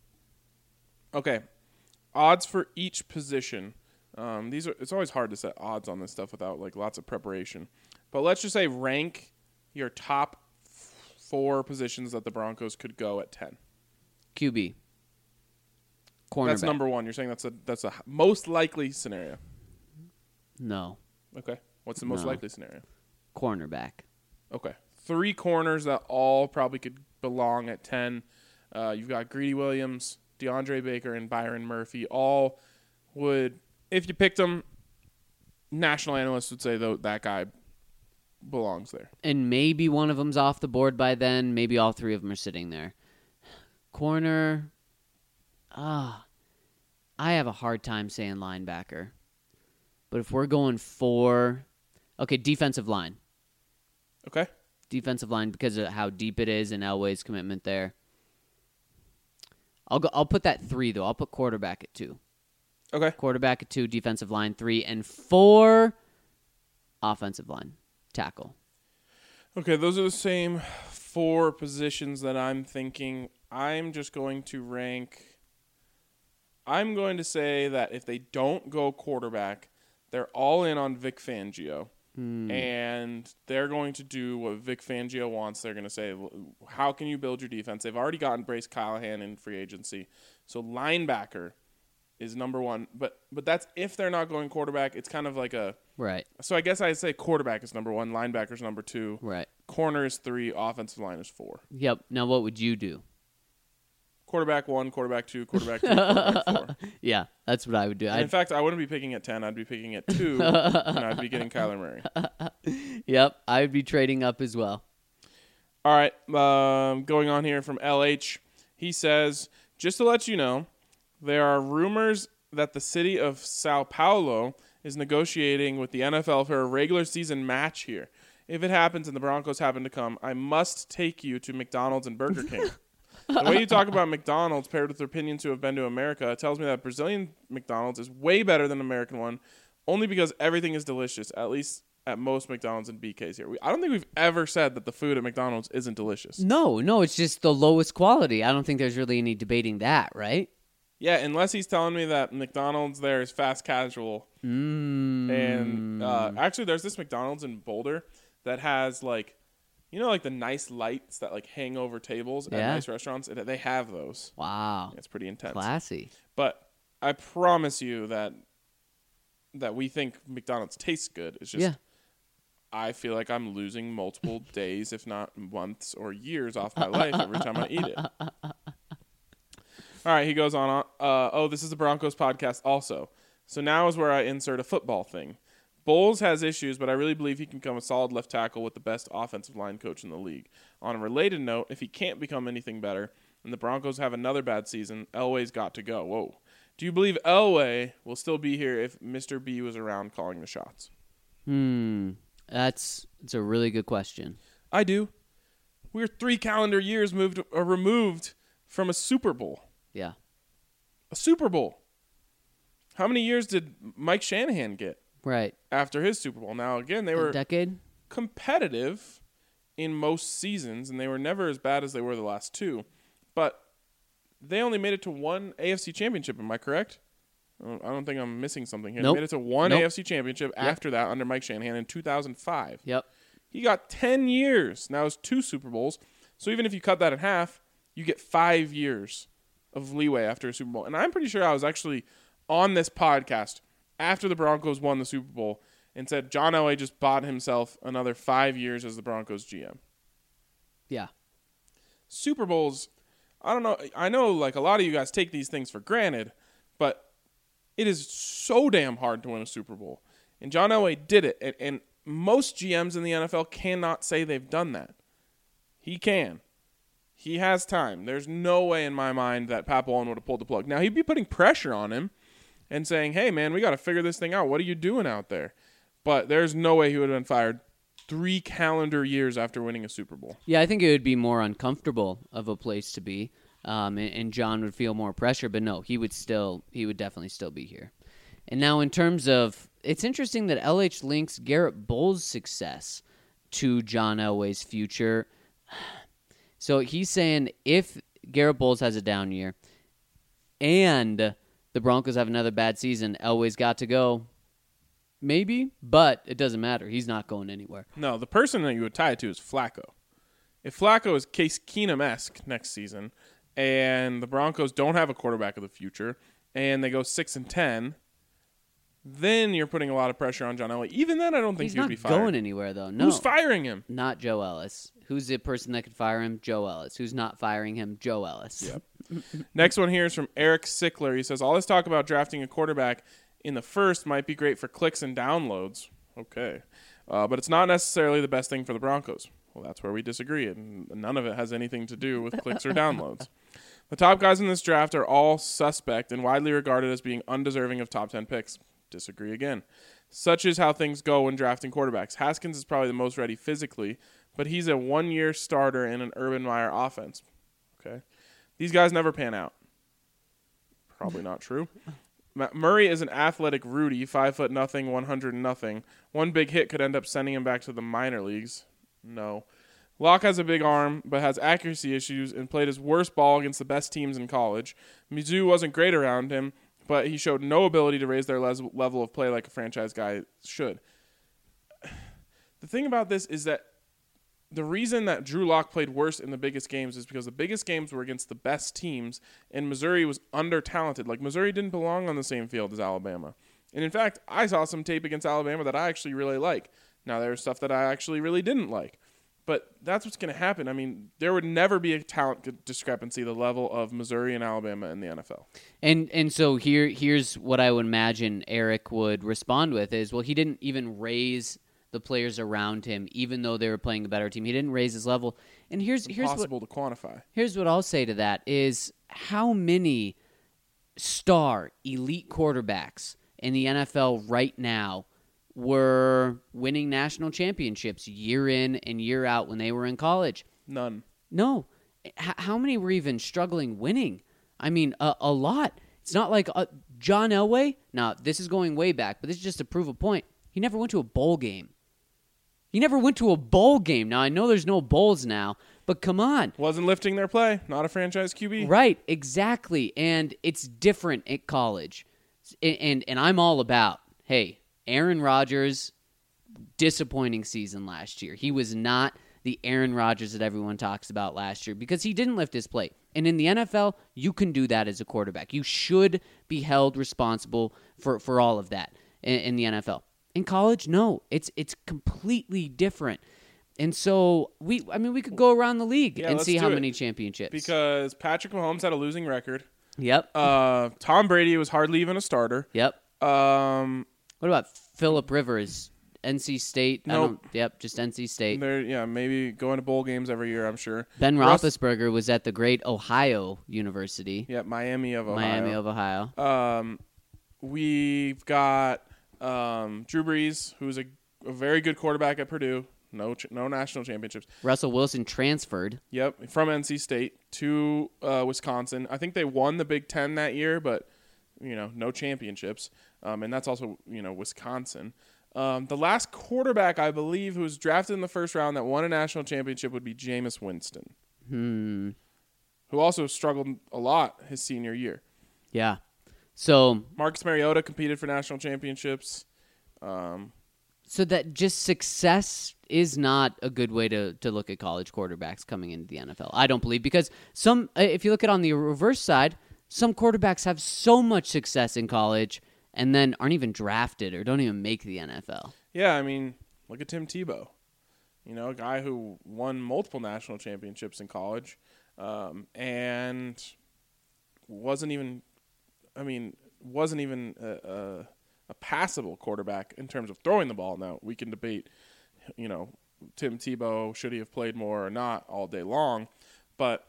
Speaker 1: Okay. Odds for each position. It's always hard to set odds on this stuff without like lots of preparation. But let's just say rank your top 4 positions that the Broncos could go at 10.
Speaker 3: QB. Cornerback.
Speaker 1: That's number 1. You're saying that's a most likely scenario.
Speaker 3: No.
Speaker 1: Okay. What's the most likely scenario?
Speaker 3: Cornerback.
Speaker 1: Okay. 3 corners that all probably could belong at 10. You've got Greedy Williams, DeAndre Baker, and Byron Murphy. All would, if you picked them, national analysts would say that guy belongs there.
Speaker 3: And maybe one of them's off the board by then. Maybe all 3 of them are sitting there. Corner. I have a hard time saying linebacker. But if we're going for... Okay, defensive line.
Speaker 1: Okay.
Speaker 3: Defensive line because of how deep it is and Elway's commitment there. I'll put that 3, though. I'll put quarterback at 2.
Speaker 1: Okay.
Speaker 3: Quarterback at 2, defensive line 3, and 4 offensive line. Tackle.
Speaker 1: Okay, those are the same 4 positions that I'm thinking. I'm just going to rank... I'm going to say that if they don't go quarterback, they're all in on Vic Fangio. And they're going to do what Vic Fangio wants. They're going to say, how can you build your defense? They've already gotten Brace Callahan in free agency. So linebacker is number 1. But that's if they're not going quarterback. It's kind of like a...
Speaker 3: Right.
Speaker 1: So I guess I'd say quarterback is number 1, linebacker is number 2.
Speaker 3: Right.
Speaker 1: Corner is 3, offensive line is 4.
Speaker 3: Yep. Now what would you do?
Speaker 1: Quarterback 1, quarterback 2, quarterback 3, quarterback 4.
Speaker 3: Yeah, that's what I would do.
Speaker 1: In fact, I wouldn't be picking at 10. I'd be picking at 2, and I'd be getting Kyler Murray.
Speaker 3: Yep, I would be trading up as well.
Speaker 1: All right, going on here from LH. He says, just to let you know, there are rumors that the city of Sao Paulo is negotiating with the NFL for a regular season match here. If it happens and the Broncos happen to come, I must take you to McDonald's and Burger King. The way you talk about McDonald's paired with opinions who have been to America tells me that Brazilian McDonald's is way better than American one, only because everything is delicious, at least at most McDonald's and BKs here. I don't think we've ever said that the food at McDonald's isn't delicious.
Speaker 3: No, it's just the lowest quality. I don't think there's really any debating that, right?
Speaker 1: Yeah, unless he's telling me that McDonald's there is fast casual. And actually, there's this McDonald's in Boulder that has like... You know, like the nice lights that like hang over tables at nice restaurants? They have those.
Speaker 3: Wow.
Speaker 1: It's pretty intense.
Speaker 3: Classy.
Speaker 1: But I promise you that we think McDonald's tastes good. It's just I feel like I'm losing multiple days, if not months or years off my life every time I eat it. All right, he goes on. This is a Broncos podcast also. So now is where I insert a football thing. Bowles has issues, but I really believe he can become a solid left tackle with the best offensive line coach in the league. On a related note, if he can't become anything better and the Broncos have another bad season, Elway's got to go. Whoa. Do you believe Elway will still be here if Mr. B was around calling the shots?
Speaker 3: It's a really good question.
Speaker 1: I do. We're 3 calendar years removed from a Super Bowl.
Speaker 3: Yeah.
Speaker 1: A Super Bowl. How many years did Mike Shanahan get?
Speaker 3: Right.
Speaker 1: After his Super Bowl. Now, again, they were
Speaker 3: a decade
Speaker 1: competitive in most seasons, and they were never as bad as they were the last 2. But they only made it to 1 AFC championship. Am I correct? I don't think I'm missing something here.
Speaker 3: Nope.
Speaker 1: They made it to 1
Speaker 3: Nope.
Speaker 1: AFC championship after that under Mike Shanahan in 2005.
Speaker 3: Yep.
Speaker 1: He got 10 years. Now it's 2 Super Bowls. So even if you cut that in half, you get 5 years of leeway after a Super Bowl. And I'm pretty sure I was actually on this podcast after the Broncos won the Super Bowl and said John Elway just bought himself another 5 years as the Broncos GM.
Speaker 3: Yeah.
Speaker 1: Super Bowls, I don't know. I know like a lot of you guys take these things for granted, but it is so damn hard to win a Super Bowl. And John Elway did it. And most GMs in the NFL cannot say they've done that. He can. He has time. There's no way in my mind that Pat Bowlen would have pulled the plug. Now, he'd be putting pressure on him and saying, hey, man, we got to figure this thing out. What are you doing out there? But there's no way he would have been fired 3 calendar years after winning a Super Bowl.
Speaker 3: Yeah, I think it would be more uncomfortable of a place to be, and John would feel more pressure. But no, he would definitely still be here. And now in terms of, it's interesting that LH links Garrett Bowles' success to John Elway's future. So he's saying if Garrett Bowles has a down year and the Broncos have another bad season, Elway's got to go. Maybe, but it doesn't matter. He's not going anywhere.
Speaker 1: No, the person that you would tie it to is Flacco. If Flacco is Case Keenum-esque next season and the Broncos don't have a quarterback of the future and they go 6-10, then you're putting a lot of pressure on John Elway. Even then, I don't think
Speaker 3: He's
Speaker 1: he would
Speaker 3: not
Speaker 1: be fired.
Speaker 3: going anywhere, though. No.
Speaker 1: Who's firing him?
Speaker 3: Not Joe Ellis. Who's the person that could fire him? Joe Ellis. Who's not firing him? Joe Ellis.
Speaker 1: Yep. Next one here is from Eric Sickler. He says, all this talk about drafting a quarterback in the first might be great for clicks and downloads. Okay. But it's not necessarily the best thing for the Broncos. Well, that's where we disagree, and none of it has anything to do with clicks or downloads. The top guys in this draft are all suspect and widely regarded as being undeserving of top 10 picks. Disagree again. Such is how things go when drafting quarterbacks. Haskins is probably the most ready physically, but he's a 1-year starter in an Urban Meyer offense. Okay. These guys never pan out. Probably not true. Murray is an athletic Rudy, 5'0", 100 nothing. One big hit could end up sending him back to the minor leagues. No. Locke has a big arm, but has accuracy issues and played his worst ball against the best teams in college. Mizzou wasn't great around him, but he showed no ability to raise their level of play like a franchise guy should. The thing about this is that the reason that Drew Lock played worse in the biggest games is because the biggest games were against the best teams, and Missouri was under-talented. Like, Missouri didn't belong on the same field as Alabama. And, in fact, I saw some tape against Alabama that I actually really like. Now, there was stuff that I actually really didn't like. But that's what's going to happen. I mean, there would never be a talent discrepancy the level of Missouri and Alabama in the NFL.
Speaker 3: And so here's what I would imagine Eric would respond with is, well, he didn't even raise the players around him, even though they were playing a better team. He didn't raise his level. And here's
Speaker 1: impossible to quantify.
Speaker 3: Here's what I'll say to that is how many star elite quarterbacks in the NFL right now were winning national championships year in and year out when they were in college?
Speaker 1: None.
Speaker 3: No. How many were even struggling winning? I mean, a lot. It's not like John Elway. Now, this is going way back, but this is just to prove a point. He never went to a bowl game. He never went to a bowl game. Now, I know there's no bowls now, but come on.
Speaker 1: Wasn't lifting their play. Not a franchise QB.
Speaker 3: Right, exactly. And it's different at college. And I'm all about, hey, Aaron Rodgers, disappointing season last year. He was not the Aaron Rodgers that everyone talks about last year because he didn't lift his plate. And in the NFL, you can do that as a quarterback. You should be held responsible for all of that in the NFL. In college, no. It's completely different. And so, we could go around the league and see how many championships.
Speaker 1: Because Patrick Mahomes had a losing record.
Speaker 3: Yep.
Speaker 1: Tom Brady was hardly even a starter.
Speaker 3: Yep.
Speaker 1: Um,
Speaker 3: What about Phillip Rivers? NC State?
Speaker 1: Nope.
Speaker 3: Yep, just NC State.
Speaker 1: maybe going to bowl games every year, I'm sure.
Speaker 3: Ben Roethlisberger was at the great Ohio University.
Speaker 1: Yeah, Miami of Ohio.
Speaker 3: Miami of Ohio.
Speaker 1: We've got Drew Brees, who's a very good quarterback at Purdue. No national championships.
Speaker 3: Russell Wilson transferred.
Speaker 1: Yep, from NC State to Wisconsin. I think they won the Big Ten that year, but no championships. And that's also Wisconsin. The last quarterback, I believe, who was drafted in the first round that won a national championship would be Jameis Winston, who also struggled a lot his senior year.
Speaker 3: Yeah. So
Speaker 1: Marcus Mariota competed for national championships.
Speaker 3: So that just success is not a good way to look at college quarterbacks coming into the NFL. I don't believe, because if you look at it on the reverse side, some quarterbacks have so much success in college and then aren't even drafted or don't even make the NFL.
Speaker 1: Yeah, I mean, look at Tim Tebow. A guy who won multiple national championships in college and wasn't even a passable quarterback in terms of throwing the ball. Now, we can debate, Tim Tebow, should he have played more or not all day long, but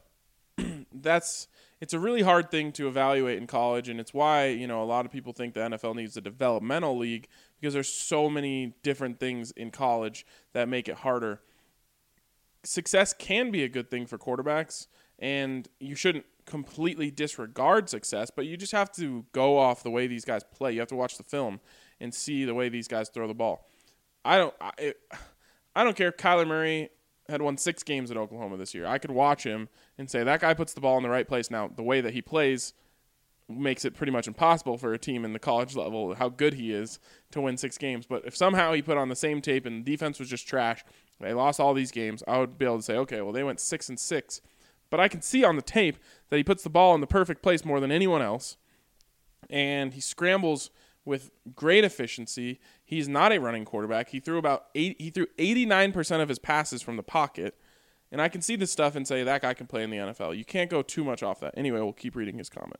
Speaker 1: it's a really hard thing to evaluate in college, and it's why, a lot of people think the NFL needs a developmental league, because there's so many different things in college that make it harder. Success can be a good thing for quarterbacks, and you shouldn't completely disregard success, but you just have to go off the way these guys play. You have to watch the film and see the way these guys throw the ball. I don't care if Kyler Murray had won 6 games at Oklahoma this year. I could watch him and say that guy puts the ball in the right place. Now, the way that he plays makes it pretty much impossible for a team in the college level, how good he is, to win 6 games. But if somehow he put on the same tape and the defense was just trash, they lost all these games, I would be able to say, okay, well, they went 6-6. But I can see on the tape that he puts the ball in the perfect place more than anyone else, and he scrambles with great efficiency. He's not a running quarterback. He threw 89% of his passes from the pocket, and I can see this stuff and say that guy can play in the NFL. You can't go too much off that. Anyway, we'll keep reading his comment.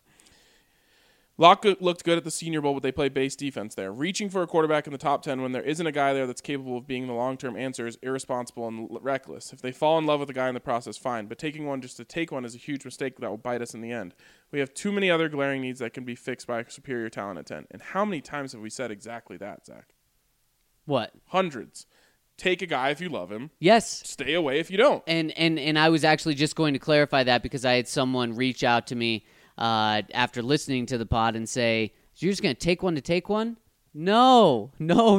Speaker 1: Locke looked good at the Senior Bowl, but they played base defense there. Reaching for a quarterback in the top 10 when there isn't a guy there that's capable of being the long-term answer is irresponsible and reckless. If they fall in love with a guy in the process, fine. But taking one just to take one is a huge mistake that will bite us in the end. We have too many other glaring needs that can be fixed by superior talent at 10. And how many times have we said exactly that, Zach?
Speaker 3: What?
Speaker 1: Hundreds. Take a guy if you love him.
Speaker 3: Yes.
Speaker 1: Stay away if you don't.
Speaker 3: And I was actually just going to clarify that, because I had someone reach out to me after listening to the pod and say, so you're just going to take one to take one? No.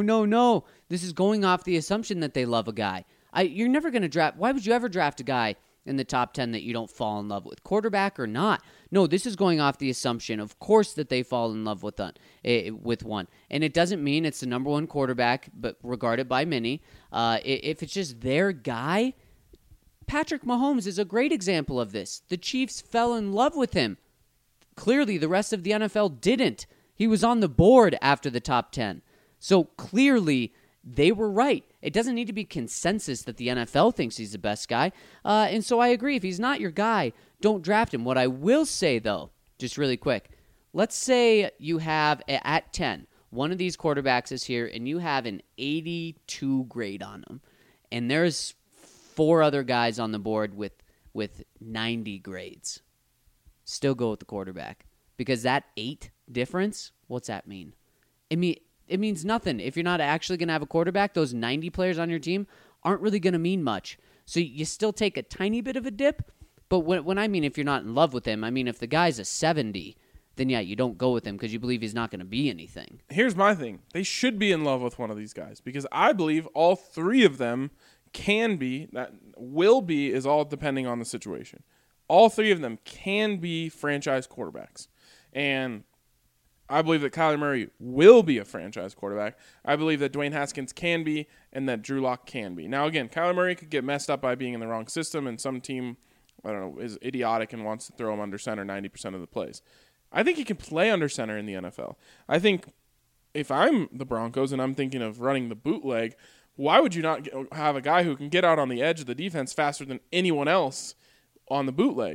Speaker 3: This is going off the assumption that they love a guy. You're never going to draft. Why would you ever draft a guy in the top 10 that you don't fall in love with, quarterback or not? No, this is going off the assumption, of course, that they fall in love with one. And it doesn't mean it's the number one quarterback, but regarded by many. If it's just their guy, Patrick Mahomes is a great example of this. The Chiefs fell in love with him. Clearly, the rest of the NFL didn't. He was on the board after the top 10. So clearly, they were right. It doesn't need to be consensus that the NFL thinks he's the best guy. And so I agree. If he's not your guy, don't draft him. What I will say, though, just really quick, let's say you have, at 10, one of these quarterbacks is here, and you have an 82 grade on him. And there's 4 other guys on the board with 90 grades. Still go with the quarterback, because that 8 difference, what's that mean? It means nothing. If you're not actually going to have a quarterback, those 90 players on your team aren't really going to mean much. So you still take a tiny bit of a dip, but when I mean if you're not in love with him, I mean if the guy's a 70, then yeah, you don't go with him because you believe he's not going to be anything.
Speaker 1: Here's my thing. They should be in love with one of these guys, because I believe all 3 of them can be, that will be is all depending on the situation. All 3 of them can be franchise quarterbacks. And I believe that Kyler Murray will be a franchise quarterback. I believe that Dwayne Haskins can be, and that Drew Lock can be. Now, again, Kyler Murray could get messed up by being in the wrong system, and some team, I don't know, is idiotic and wants to throw him under center 90% of the plays. I think he can play under center in the NFL. I think if I'm the Broncos and I'm thinking of running the bootleg, why would you not have a guy who can get out on the edge of the defense faster than anyone else on the bootleg?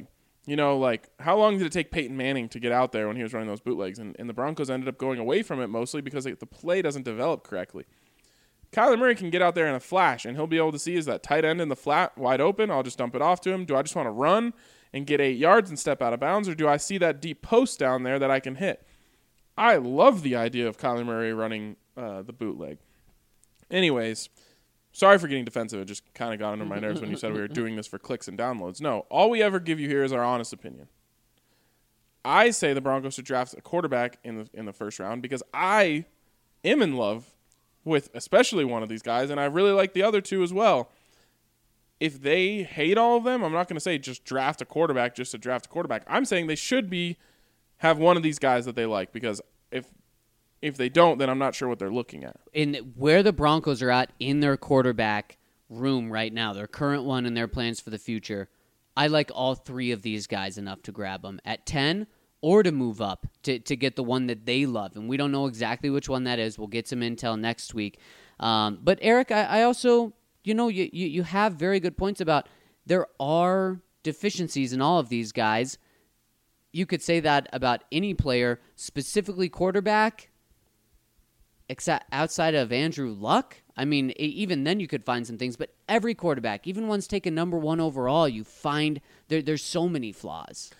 Speaker 1: You know, like, how long did it take Peyton Manning to get out there when he was running those bootlegs? And the Broncos ended up going away from it mostly because the play doesn't develop correctly. Kyler Murray can get out there in a flash, and he'll be able to see, is that tight end in the flat wide open? I'll just dump it off to him. Do I just want to run and get 8 yards and step out of bounds, or do I see that deep post down there that I can hit? I love the idea of Kyler Murray running the bootleg. Anyways, sorry for getting defensive. It just kind of got under my nerves when you said we were doing this for clicks and downloads. No, all we ever give you here is our honest opinion. I say the Broncos should draft a quarterback in the first round because I am in love with especially one of these guys, and I really like the other two as well. If they hate all of them, I'm not going to say just draft a quarterback just to draft a quarterback. I'm saying they should have one of these guys that they like, because if they don't, then I'm not sure what they're looking at.
Speaker 3: In where the Broncos are at in their quarterback room right now, their current one and their plans for the future, I like all three of these guys enough to grab them at 10 or to move up to get the one that they love. And we don't know exactly which one that is. We'll get some intel next week. But Eric, I also, you have very good points about there are deficiencies in all of these guys. You could say that about any player, specifically quarterback, except outside of Andrew Luck. I mean, even then you could find some things, but every quarterback, even ones taken number 1 overall, you find there's so many flaws.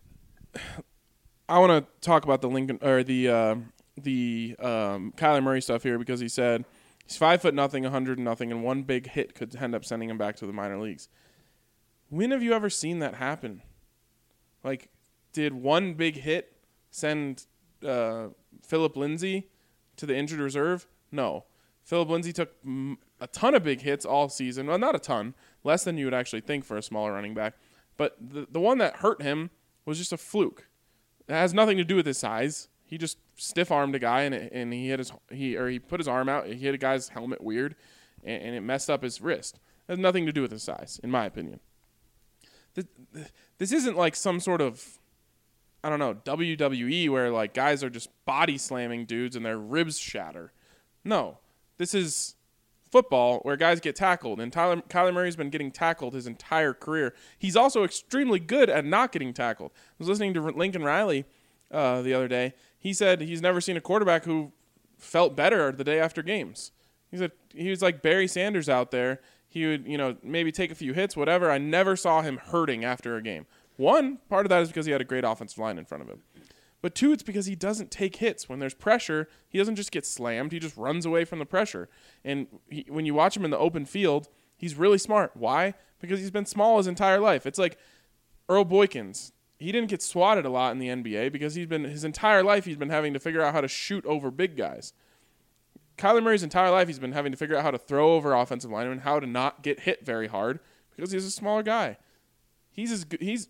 Speaker 1: I want to talk about the Kyler Murray stuff here, because he said he's 5'0", 100 nothing, and one big hit could end up sending him back to the minor leagues. When have you ever seen that happen? Like, did one big hit send Phillip Lindsay to the injured reserve? No. Phillip Lindsay took a ton of big hits all season. Well, not a ton. Less than you would actually think for a smaller running back. But the one that hurt him was just a fluke. It has nothing to do with his size. He just stiff-armed a guy, and he put his arm out. He hit a guy's helmet weird, and it messed up his wrist. It has nothing to do with his size, in my opinion. This isn't like some sort of, I don't know, WWE where like guys are just body slamming dudes and their ribs shatter. No, this is football where guys get tackled, and Kyler Murray's been getting tackled his entire career. He's also extremely good at not getting tackled. I was listening to Lincoln Riley the other day. He said he's never seen a quarterback who felt better the day after games. He said he was like Barry Sanders out there. He would, maybe take a few hits, whatever. I never saw him hurting after a game. One, part of that is because he had a great offensive line in front of him. But two, it's because he doesn't take hits. When there's pressure, he doesn't just get slammed. He just runs away from the pressure. And when you watch him in the open field, he's really smart. Why? Because he's been small his entire life. It's like Earl Boykins. He didn't get swatted a lot in the NBA because his entire life he's been having to figure out how to shoot over big guys. Kyler Murray's entire life he's been having to figure out how to throw over offensive linemen, how to not get hit very hard because he's a smaller guy. He's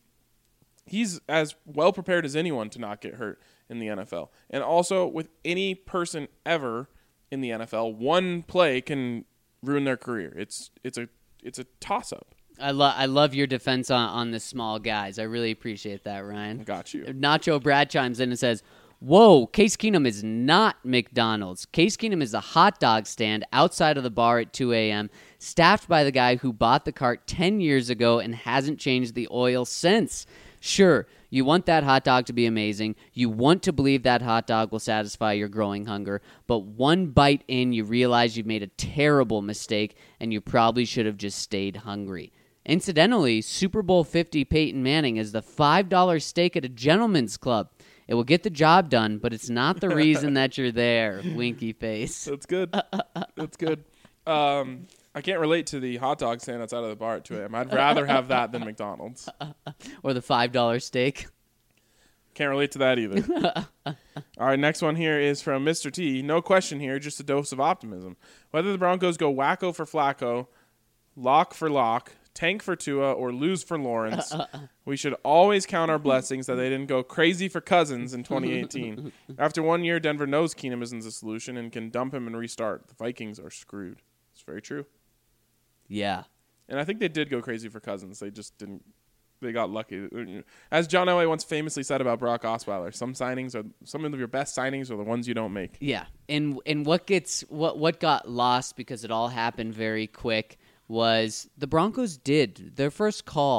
Speaker 1: as well prepared as anyone to not get hurt in the NFL. And also, with any person ever in the NFL, one play can ruin their career. It's a toss-up.
Speaker 3: I love your defense on the small guys. I really appreciate that, Ryan.
Speaker 1: Got you.
Speaker 3: Nacho Brad chimes in and says, "Whoa, Case Keenum is not McDonald's. Case Keenum is a hot dog stand outside of the bar at 2 a.m., staffed by the guy who bought the cart 10 years ago and hasn't changed the oil since. Sure, you want that hot dog to be amazing. You want to believe that hot dog will satisfy your growing hunger. But one bite in, you realize you've made a terrible mistake, and you probably should have just stayed hungry." Incidentally, Super Bowl 50 Peyton Manning is the $5 steak at a gentleman's club. It will get the job done, but it's not the reason that you're there. Winky face.
Speaker 1: That's good. That's good. I can't relate to the hot dog stand outside of the bar at 2 a.m. I'd rather have that than McDonald's.
Speaker 3: Or the $5 steak.
Speaker 1: Can't relate to that either. All right, next one here is from Mr. T. No question here, just a dose of optimism. Whether the Broncos go wacko for Flacco, lock for Lock, tank for Tua, or lose for Lawrence, we should always count our blessings that they didn't go crazy for Cousins in 2018. After 1 year, Denver knows Keenum isn't the solution and can dump him and restart. The Vikings are screwed. It's very true.
Speaker 3: Yeah.
Speaker 1: And I think they did go crazy for Cousins. They just didn't. They got lucky. As John Elway once famously said about Brock Osweiler, some of your best signings are the ones you don't make.
Speaker 3: Yeah. And what got lost because it all happened very quick was the Broncos did their first call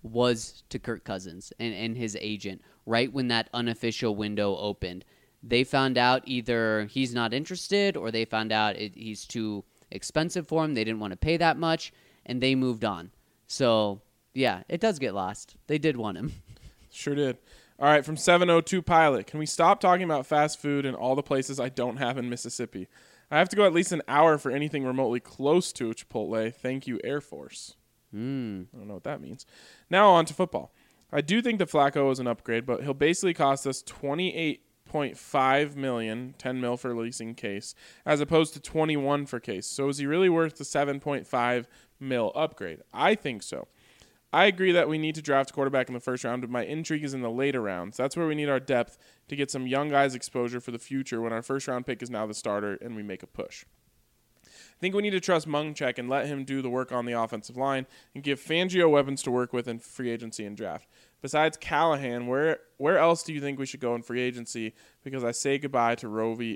Speaker 3: was to Kirk Cousins and his agent right when that unofficial window opened. They found out either he's not interested or they found out he's too expensive for him. They didn't want to pay that much, and they moved on. So, yeah, it does get lost. They did want him.
Speaker 1: Sure did. All right, from 702 Pilot. Can we stop talking about fast food and all the places I don't have in Mississippi? I have to go at least an hour for anything remotely close to a Chipotle. Thank you, Air Force. I don't know what that means. Now on to football. I do think that Flacco is an upgrade, but he'll basically cost us $28.5 million, $10 million for leasing Case, as opposed to $21 for Case. So is he really worth the $7.5 million upgrade? I think so. I agree that we need to draft a quarterback in the first round, but my intrigue is in the later rounds. That's where we need our depth to get some young guys exposure for the future when our first round pick is now the starter and we make a push. I think we need to trust Munchak and let him do the work on the offensive line and give Fangio weapons to work with in free agency and draft. Besides Callahan, where else do you think we should go in free agency? Because we say goodbye to Roby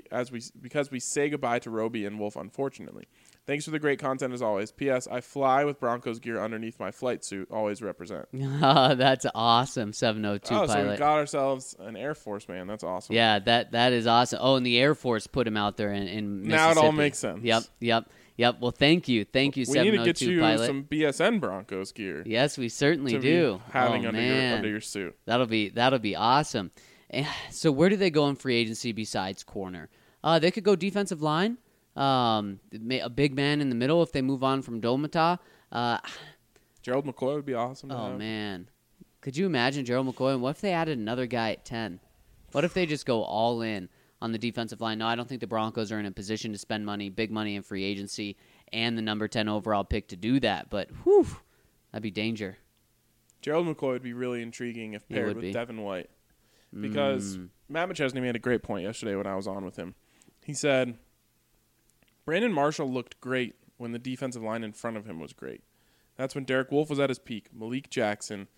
Speaker 1: and Wolf, unfortunately. Thanks for the great content as always. P.S. I fly with Broncos gear underneath my flight suit. Always represent.
Speaker 3: That's awesome, 702 Pilot.
Speaker 1: So we got ourselves an Air Force man. That's awesome.
Speaker 3: Yeah, that is awesome. Oh, and the Air Force put him out there in Mississippi.
Speaker 1: Now it all makes sense.
Speaker 3: Yep. Well, thank you, 702
Speaker 1: We need to get you
Speaker 3: Pilot.
Speaker 1: some BSN Broncos gear.
Speaker 3: Yes, we certainly
Speaker 1: to
Speaker 3: do.
Speaker 1: Be having
Speaker 3: oh,
Speaker 1: under your suit.
Speaker 3: That'll be awesome. So where do they go in free agency besides corner? They could go defensive line. A big man in the middle if they move on from Dolmata.
Speaker 1: Gerald McCoy would be awesome.
Speaker 3: Oh, man. Could you imagine Gerald McCoy? And what if they added another guy at 10? What if they just go all in on the defensive line? No, I don't think the Broncos are in a position to spend big money in free agency and the number 10 overall pick to do that. But, whew, that'd be danger.
Speaker 1: Gerald McCoy would be really intriguing if paired with Devin White. Because Matt McChesney made a great point yesterday when I was on with him. He said, Brandon Marshall looked great when the defensive line in front of him was great. That's when Derek Wolfe was at his peak. Malik Jackson,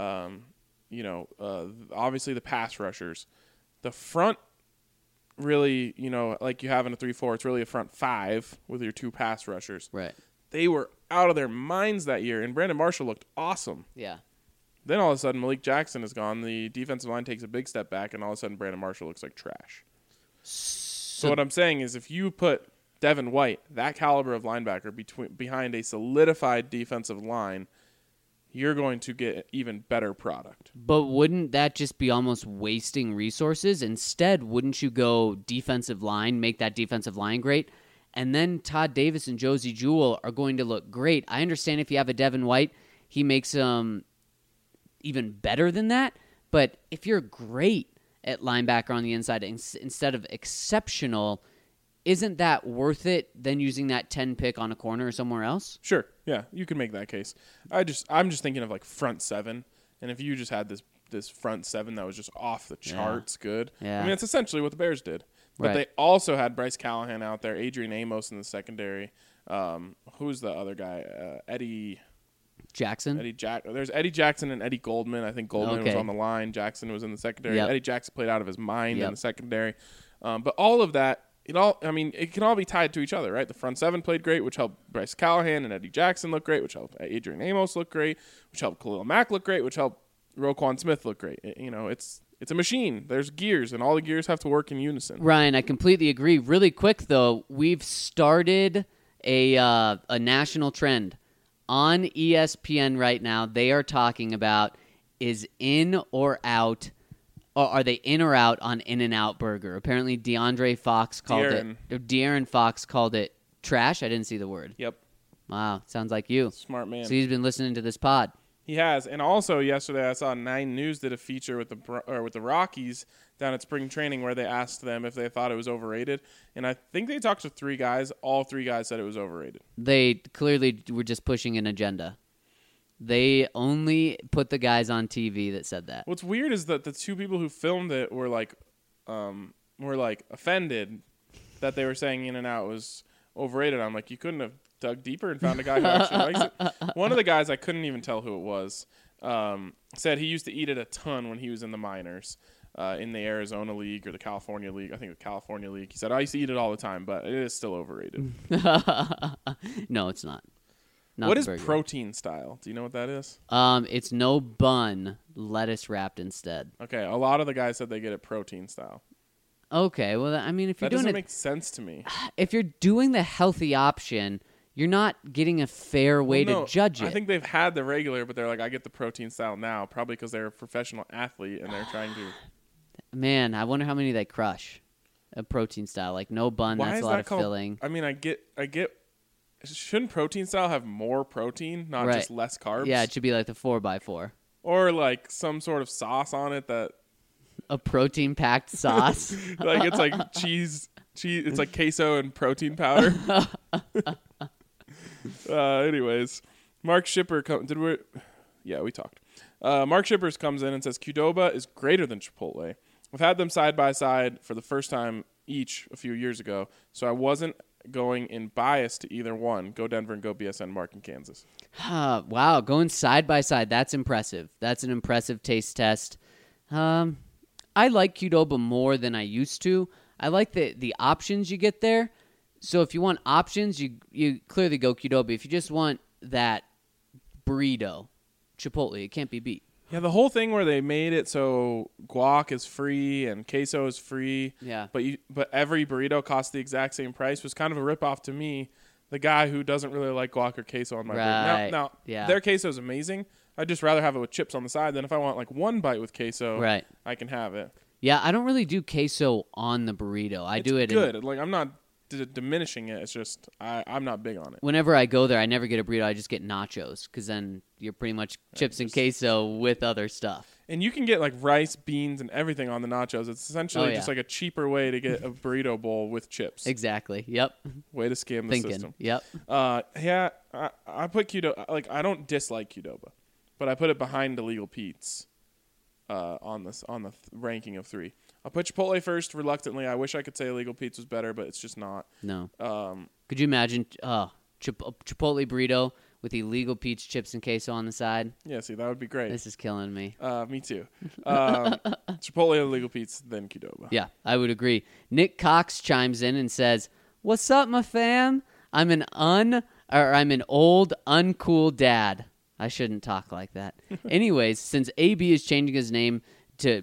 Speaker 1: obviously the pass rushers. The front really, like you have in a 3-4, it's really a front five with your two pass rushers.
Speaker 3: Right.
Speaker 1: They were out of their minds that year, and Brandon Marshall looked awesome.
Speaker 3: Yeah.
Speaker 1: Then all of a sudden, Malik Jackson is gone. The defensive line takes a big step back, and all of a sudden, Brandon Marshall looks like trash. So what I'm saying is if you put Devin White, that caliber of linebacker, behind a solidified defensive line, you're going to get even better product.
Speaker 3: But wouldn't that just be almost wasting resources? Instead, wouldn't you go defensive line, make that defensive line great? And then Todd Davis and Josie Jewell are going to look great. I understand if you have a Devin White, he makes them even better than that. But if you're great at linebacker on the inside instead of exceptional, isn't that worth it than using that 10 pick on a corner or somewhere else?
Speaker 1: Sure. Yeah, you can make that case. I'm just thinking of like front seven. And if you just had this front seven that was just off the charts good.
Speaker 3: Yeah.
Speaker 1: I mean, it's essentially what the Bears did. But they also had Bryce Callahan out there, Adrian Amos in the secondary. Who's the other guy? Eddie
Speaker 3: Jackson?
Speaker 1: There's Eddie Jackson and Eddie Goldman. I think Goldman was on the line. Jackson was in the secondary.
Speaker 3: Yep.
Speaker 1: Eddie Jackson played out of his mind in the secondary. But all of that, it can all be tied to each other, right? The front seven played great, which helped Bryce Callahan and Eddie Jackson look great, which helped Adrian Amos look great, which helped Khalil Mack look great, which helped Roquan Smith look great. It's a machine. There's gears, and all the gears have to work in unison.
Speaker 3: Ryan, I completely agree. Really quick, though, we've started a national trend. On ESPN right now, they are talking about is in or out, or are they in or out on In-N-Out Burger? Apparently, De'Aaron Fox called it trash. I didn't see the word.
Speaker 1: Yep.
Speaker 3: Wow, sounds like you.
Speaker 1: Smart man.
Speaker 3: So he's been listening to this pod.
Speaker 1: He has, and also yesterday I saw 9 News did a feature with the Rockies down at spring training where they asked them if they thought it was overrated, and I think they talked to 3 guys. All 3 guys said it was overrated.
Speaker 3: They clearly were just pushing an agenda. They only put the guys on TV that said that.
Speaker 1: What's weird is that the 2 people who filmed it were like offended that they were saying In-N-Out was overrated. I'm like, you couldn't have dug deeper and found a guy who actually likes it. One of the guys, I couldn't even tell who it was, said he used to eat it a ton when he was in the minors, in the Arizona League or the California League. I think the California League. He said, I used to eat it all the time, but it is still overrated.
Speaker 3: No, it's not. not
Speaker 1: What
Speaker 3: the
Speaker 1: is
Speaker 3: burger.
Speaker 1: protein style? Do you know what that is?
Speaker 3: It's no bun, lettuce wrapped instead.
Speaker 1: Okay, a lot of the guys said they get it protein style.
Speaker 3: Okay, well, I mean, if you're
Speaker 1: That
Speaker 3: doing
Speaker 1: doesn't
Speaker 3: it,
Speaker 1: make sense to me.
Speaker 3: if you're doing the healthy option, you're not getting a fair way
Speaker 1: Well, no,
Speaker 3: to judge it.
Speaker 1: I think they've had the regular, but they're like, I get the protein style now, probably because they're a professional athlete and they're trying to.
Speaker 3: Man, I wonder how many they crush. A protein style, like no bun.
Speaker 1: Why
Speaker 3: That's
Speaker 1: is
Speaker 3: a lot
Speaker 1: that
Speaker 3: of
Speaker 1: called?
Speaker 3: filling.
Speaker 1: I mean, I get. Shouldn't protein style have more protein, not
Speaker 3: Right.
Speaker 1: just less carbs?
Speaker 3: Yeah, it should be like the 4x4.
Speaker 1: Or like some sort of sauce on it that,
Speaker 3: A protein packed sauce.
Speaker 1: like it's like cheese. It's like queso and protein powder. Anyways, Mark Shipper we talked. Mark Shippers comes in and says Qdoba is greater than Chipotle. I've had them side by side for the first time each a few years ago, so I wasn't going in bias to either one. Go Denver and go BSN. Mark in Kansas.
Speaker 3: Wow, going side by side. That's impressive. That's an impressive taste test. I like Qdoba more than I used to. I like the options you get there. So if you want options, you clearly go Qdoba. If you just want that burrito, Chipotle, it can't be beat.
Speaker 1: Yeah, the whole thing where they made it so guac is free and queso is free.
Speaker 3: Yeah.
Speaker 1: But every burrito costs the exact same price was kind of a ripoff to me, the guy who doesn't really like guac or queso on my
Speaker 3: Right.
Speaker 1: burrito. Now,
Speaker 3: Yeah.
Speaker 1: their queso is amazing. I'd just rather have it with chips on the side than if I want like one bite with queso.
Speaker 3: Right.
Speaker 1: I can have it.
Speaker 3: Yeah, I don't really do queso on the burrito. I do it
Speaker 1: Good. Like I'm not diminishing it. It's just I'm not big on it.
Speaker 3: whenever I go there. I never get a burrito. I just get nachos because then you're pretty much chips and queso with other stuff.
Speaker 1: And you can get like rice, beans, and everything on the nachos. It's essentially
Speaker 3: Oh,
Speaker 1: just
Speaker 3: yeah.
Speaker 1: like a cheaper way to get a burrito bowl with chips.
Speaker 3: Exactly. Yep.
Speaker 1: Way to scam the
Speaker 3: Thinking.
Speaker 1: system.
Speaker 3: Yep.
Speaker 1: Yeah, I put Qdoba. Like I don't dislike Qdoba, but I put it behind Illegal Pete's on the ranking of 3. I'll put Chipotle first reluctantly. I wish I could say Illegal Pete's was better, but it's just not.
Speaker 3: No.
Speaker 1: Um,
Speaker 3: Could you imagine Chipotle burrito with Illegal Pete's chips and queso on the side?
Speaker 1: yeah, see, that would be great.
Speaker 3: This is killing me.
Speaker 1: Me too. Chipotle, Illegal Pete's, then Qdoba.
Speaker 3: Yeah, I would agree. Nick Cox chimes in and says, "What's up, my fam? I'm an old, uncool dad." I shouldn't talk like that. Anyways, since AB is changing his name to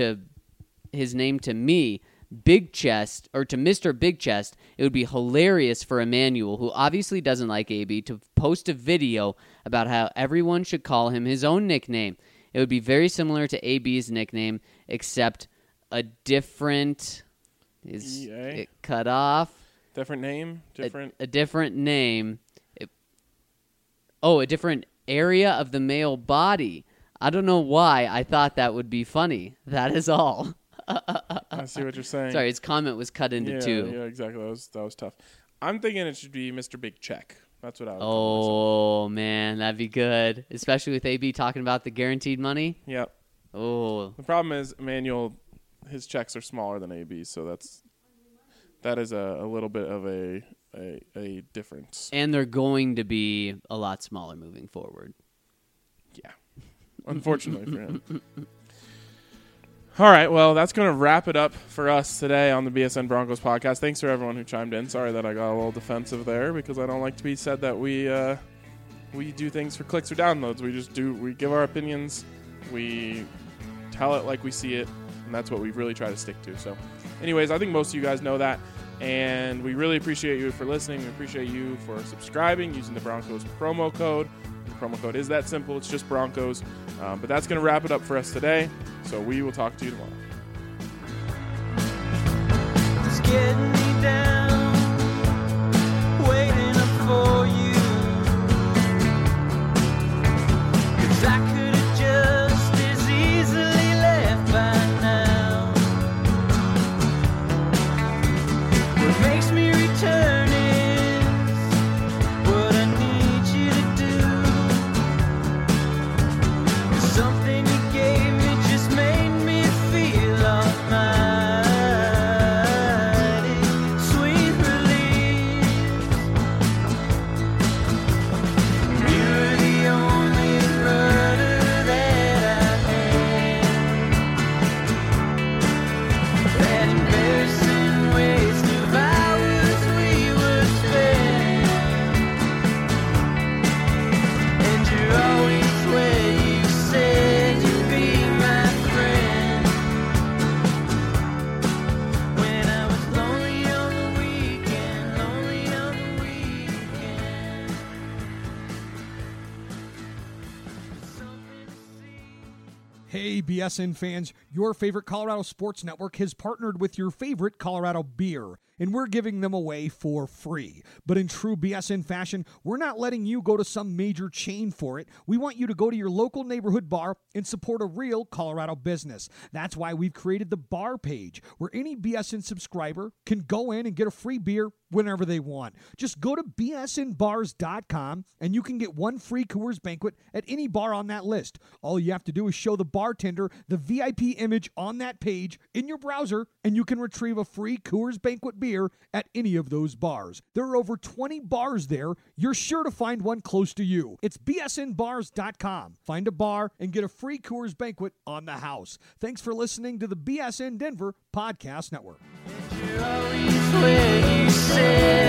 Speaker 3: me, Big Chest, or to Mr. Big Chest, it would be hilarious for Emmanuel, who obviously doesn't like AB, to post a video about how everyone should call him his own nickname. It would be very similar to AB's nickname, except a different... Is
Speaker 1: EA?
Speaker 3: it cut off?
Speaker 1: Different name, different.
Speaker 3: A different name. A different area of the male body. I don't know why I thought that would be funny. That is all.
Speaker 1: I see what you're saying.
Speaker 3: Sorry, his comment was cut into two.
Speaker 1: Yeah, exactly. That was tough. I'm thinking it should be Mr. Big Check. That's what I would call
Speaker 3: Oh, man, that'd be good. Especially with AB talking about the guaranteed money.
Speaker 1: myself. Yep.
Speaker 3: Oh,
Speaker 1: The problem is Emmanuel, his checks are smaller than AB's, so that is a little bit of a difference.
Speaker 3: and they're going to be a lot smaller moving forward.
Speaker 1: Yeah. Unfortunately for him. All right, well, that's going to wrap it up for us today on the BSN Broncos podcast. Thanks for everyone who chimed in. Sorry that I got a little defensive there because I don't like to be said that we do things for clicks or downloads. We give our opinions, we tell it like we see it, and that's what we really try to stick to. So, anyways, I think most of you guys know that, and we really appreciate you for listening. We appreciate you for subscribing, using the Broncos promo code. The promo code is that simple. It's just Broncos. But that's going to wrap it up for us today. So we will talk to you tomorrow.
Speaker 2: It's getting me down, waiting up for you. 'Cause I could have just as easily left by now. What makes me return is what I need you to do. Something you gave me just made me feel almighty. Sweet relief. You're the only brother that I had. That embarrassing waste of hours we
Speaker 6: Hey, BSN fans, your favorite Colorado Sports Network has partnered with your favorite Colorado beer, and we're giving them away for free. But in true BSN fashion, we're not letting you go to some major chain for it. We want you to go to your local neighborhood bar and support a real Colorado business. That's why we've created the bar page, where any BSN subscriber can go in and get a free beer whenever they want. Just go to bsnbars.com and you can get one free Coors Banquet at any bar on that list. All you have to do is show the bartender the VIP image on that page in your browser, and you can retrieve a free Coors Banquet beer at any of those bars. There are over 20 bars there. You're sure to find one close to you. It's bsnbars.com. Find a bar and get a free Coors Banquet on the house. Thanks for listening to the BSN Denver Podcast Network.
Speaker 2: You're always where you said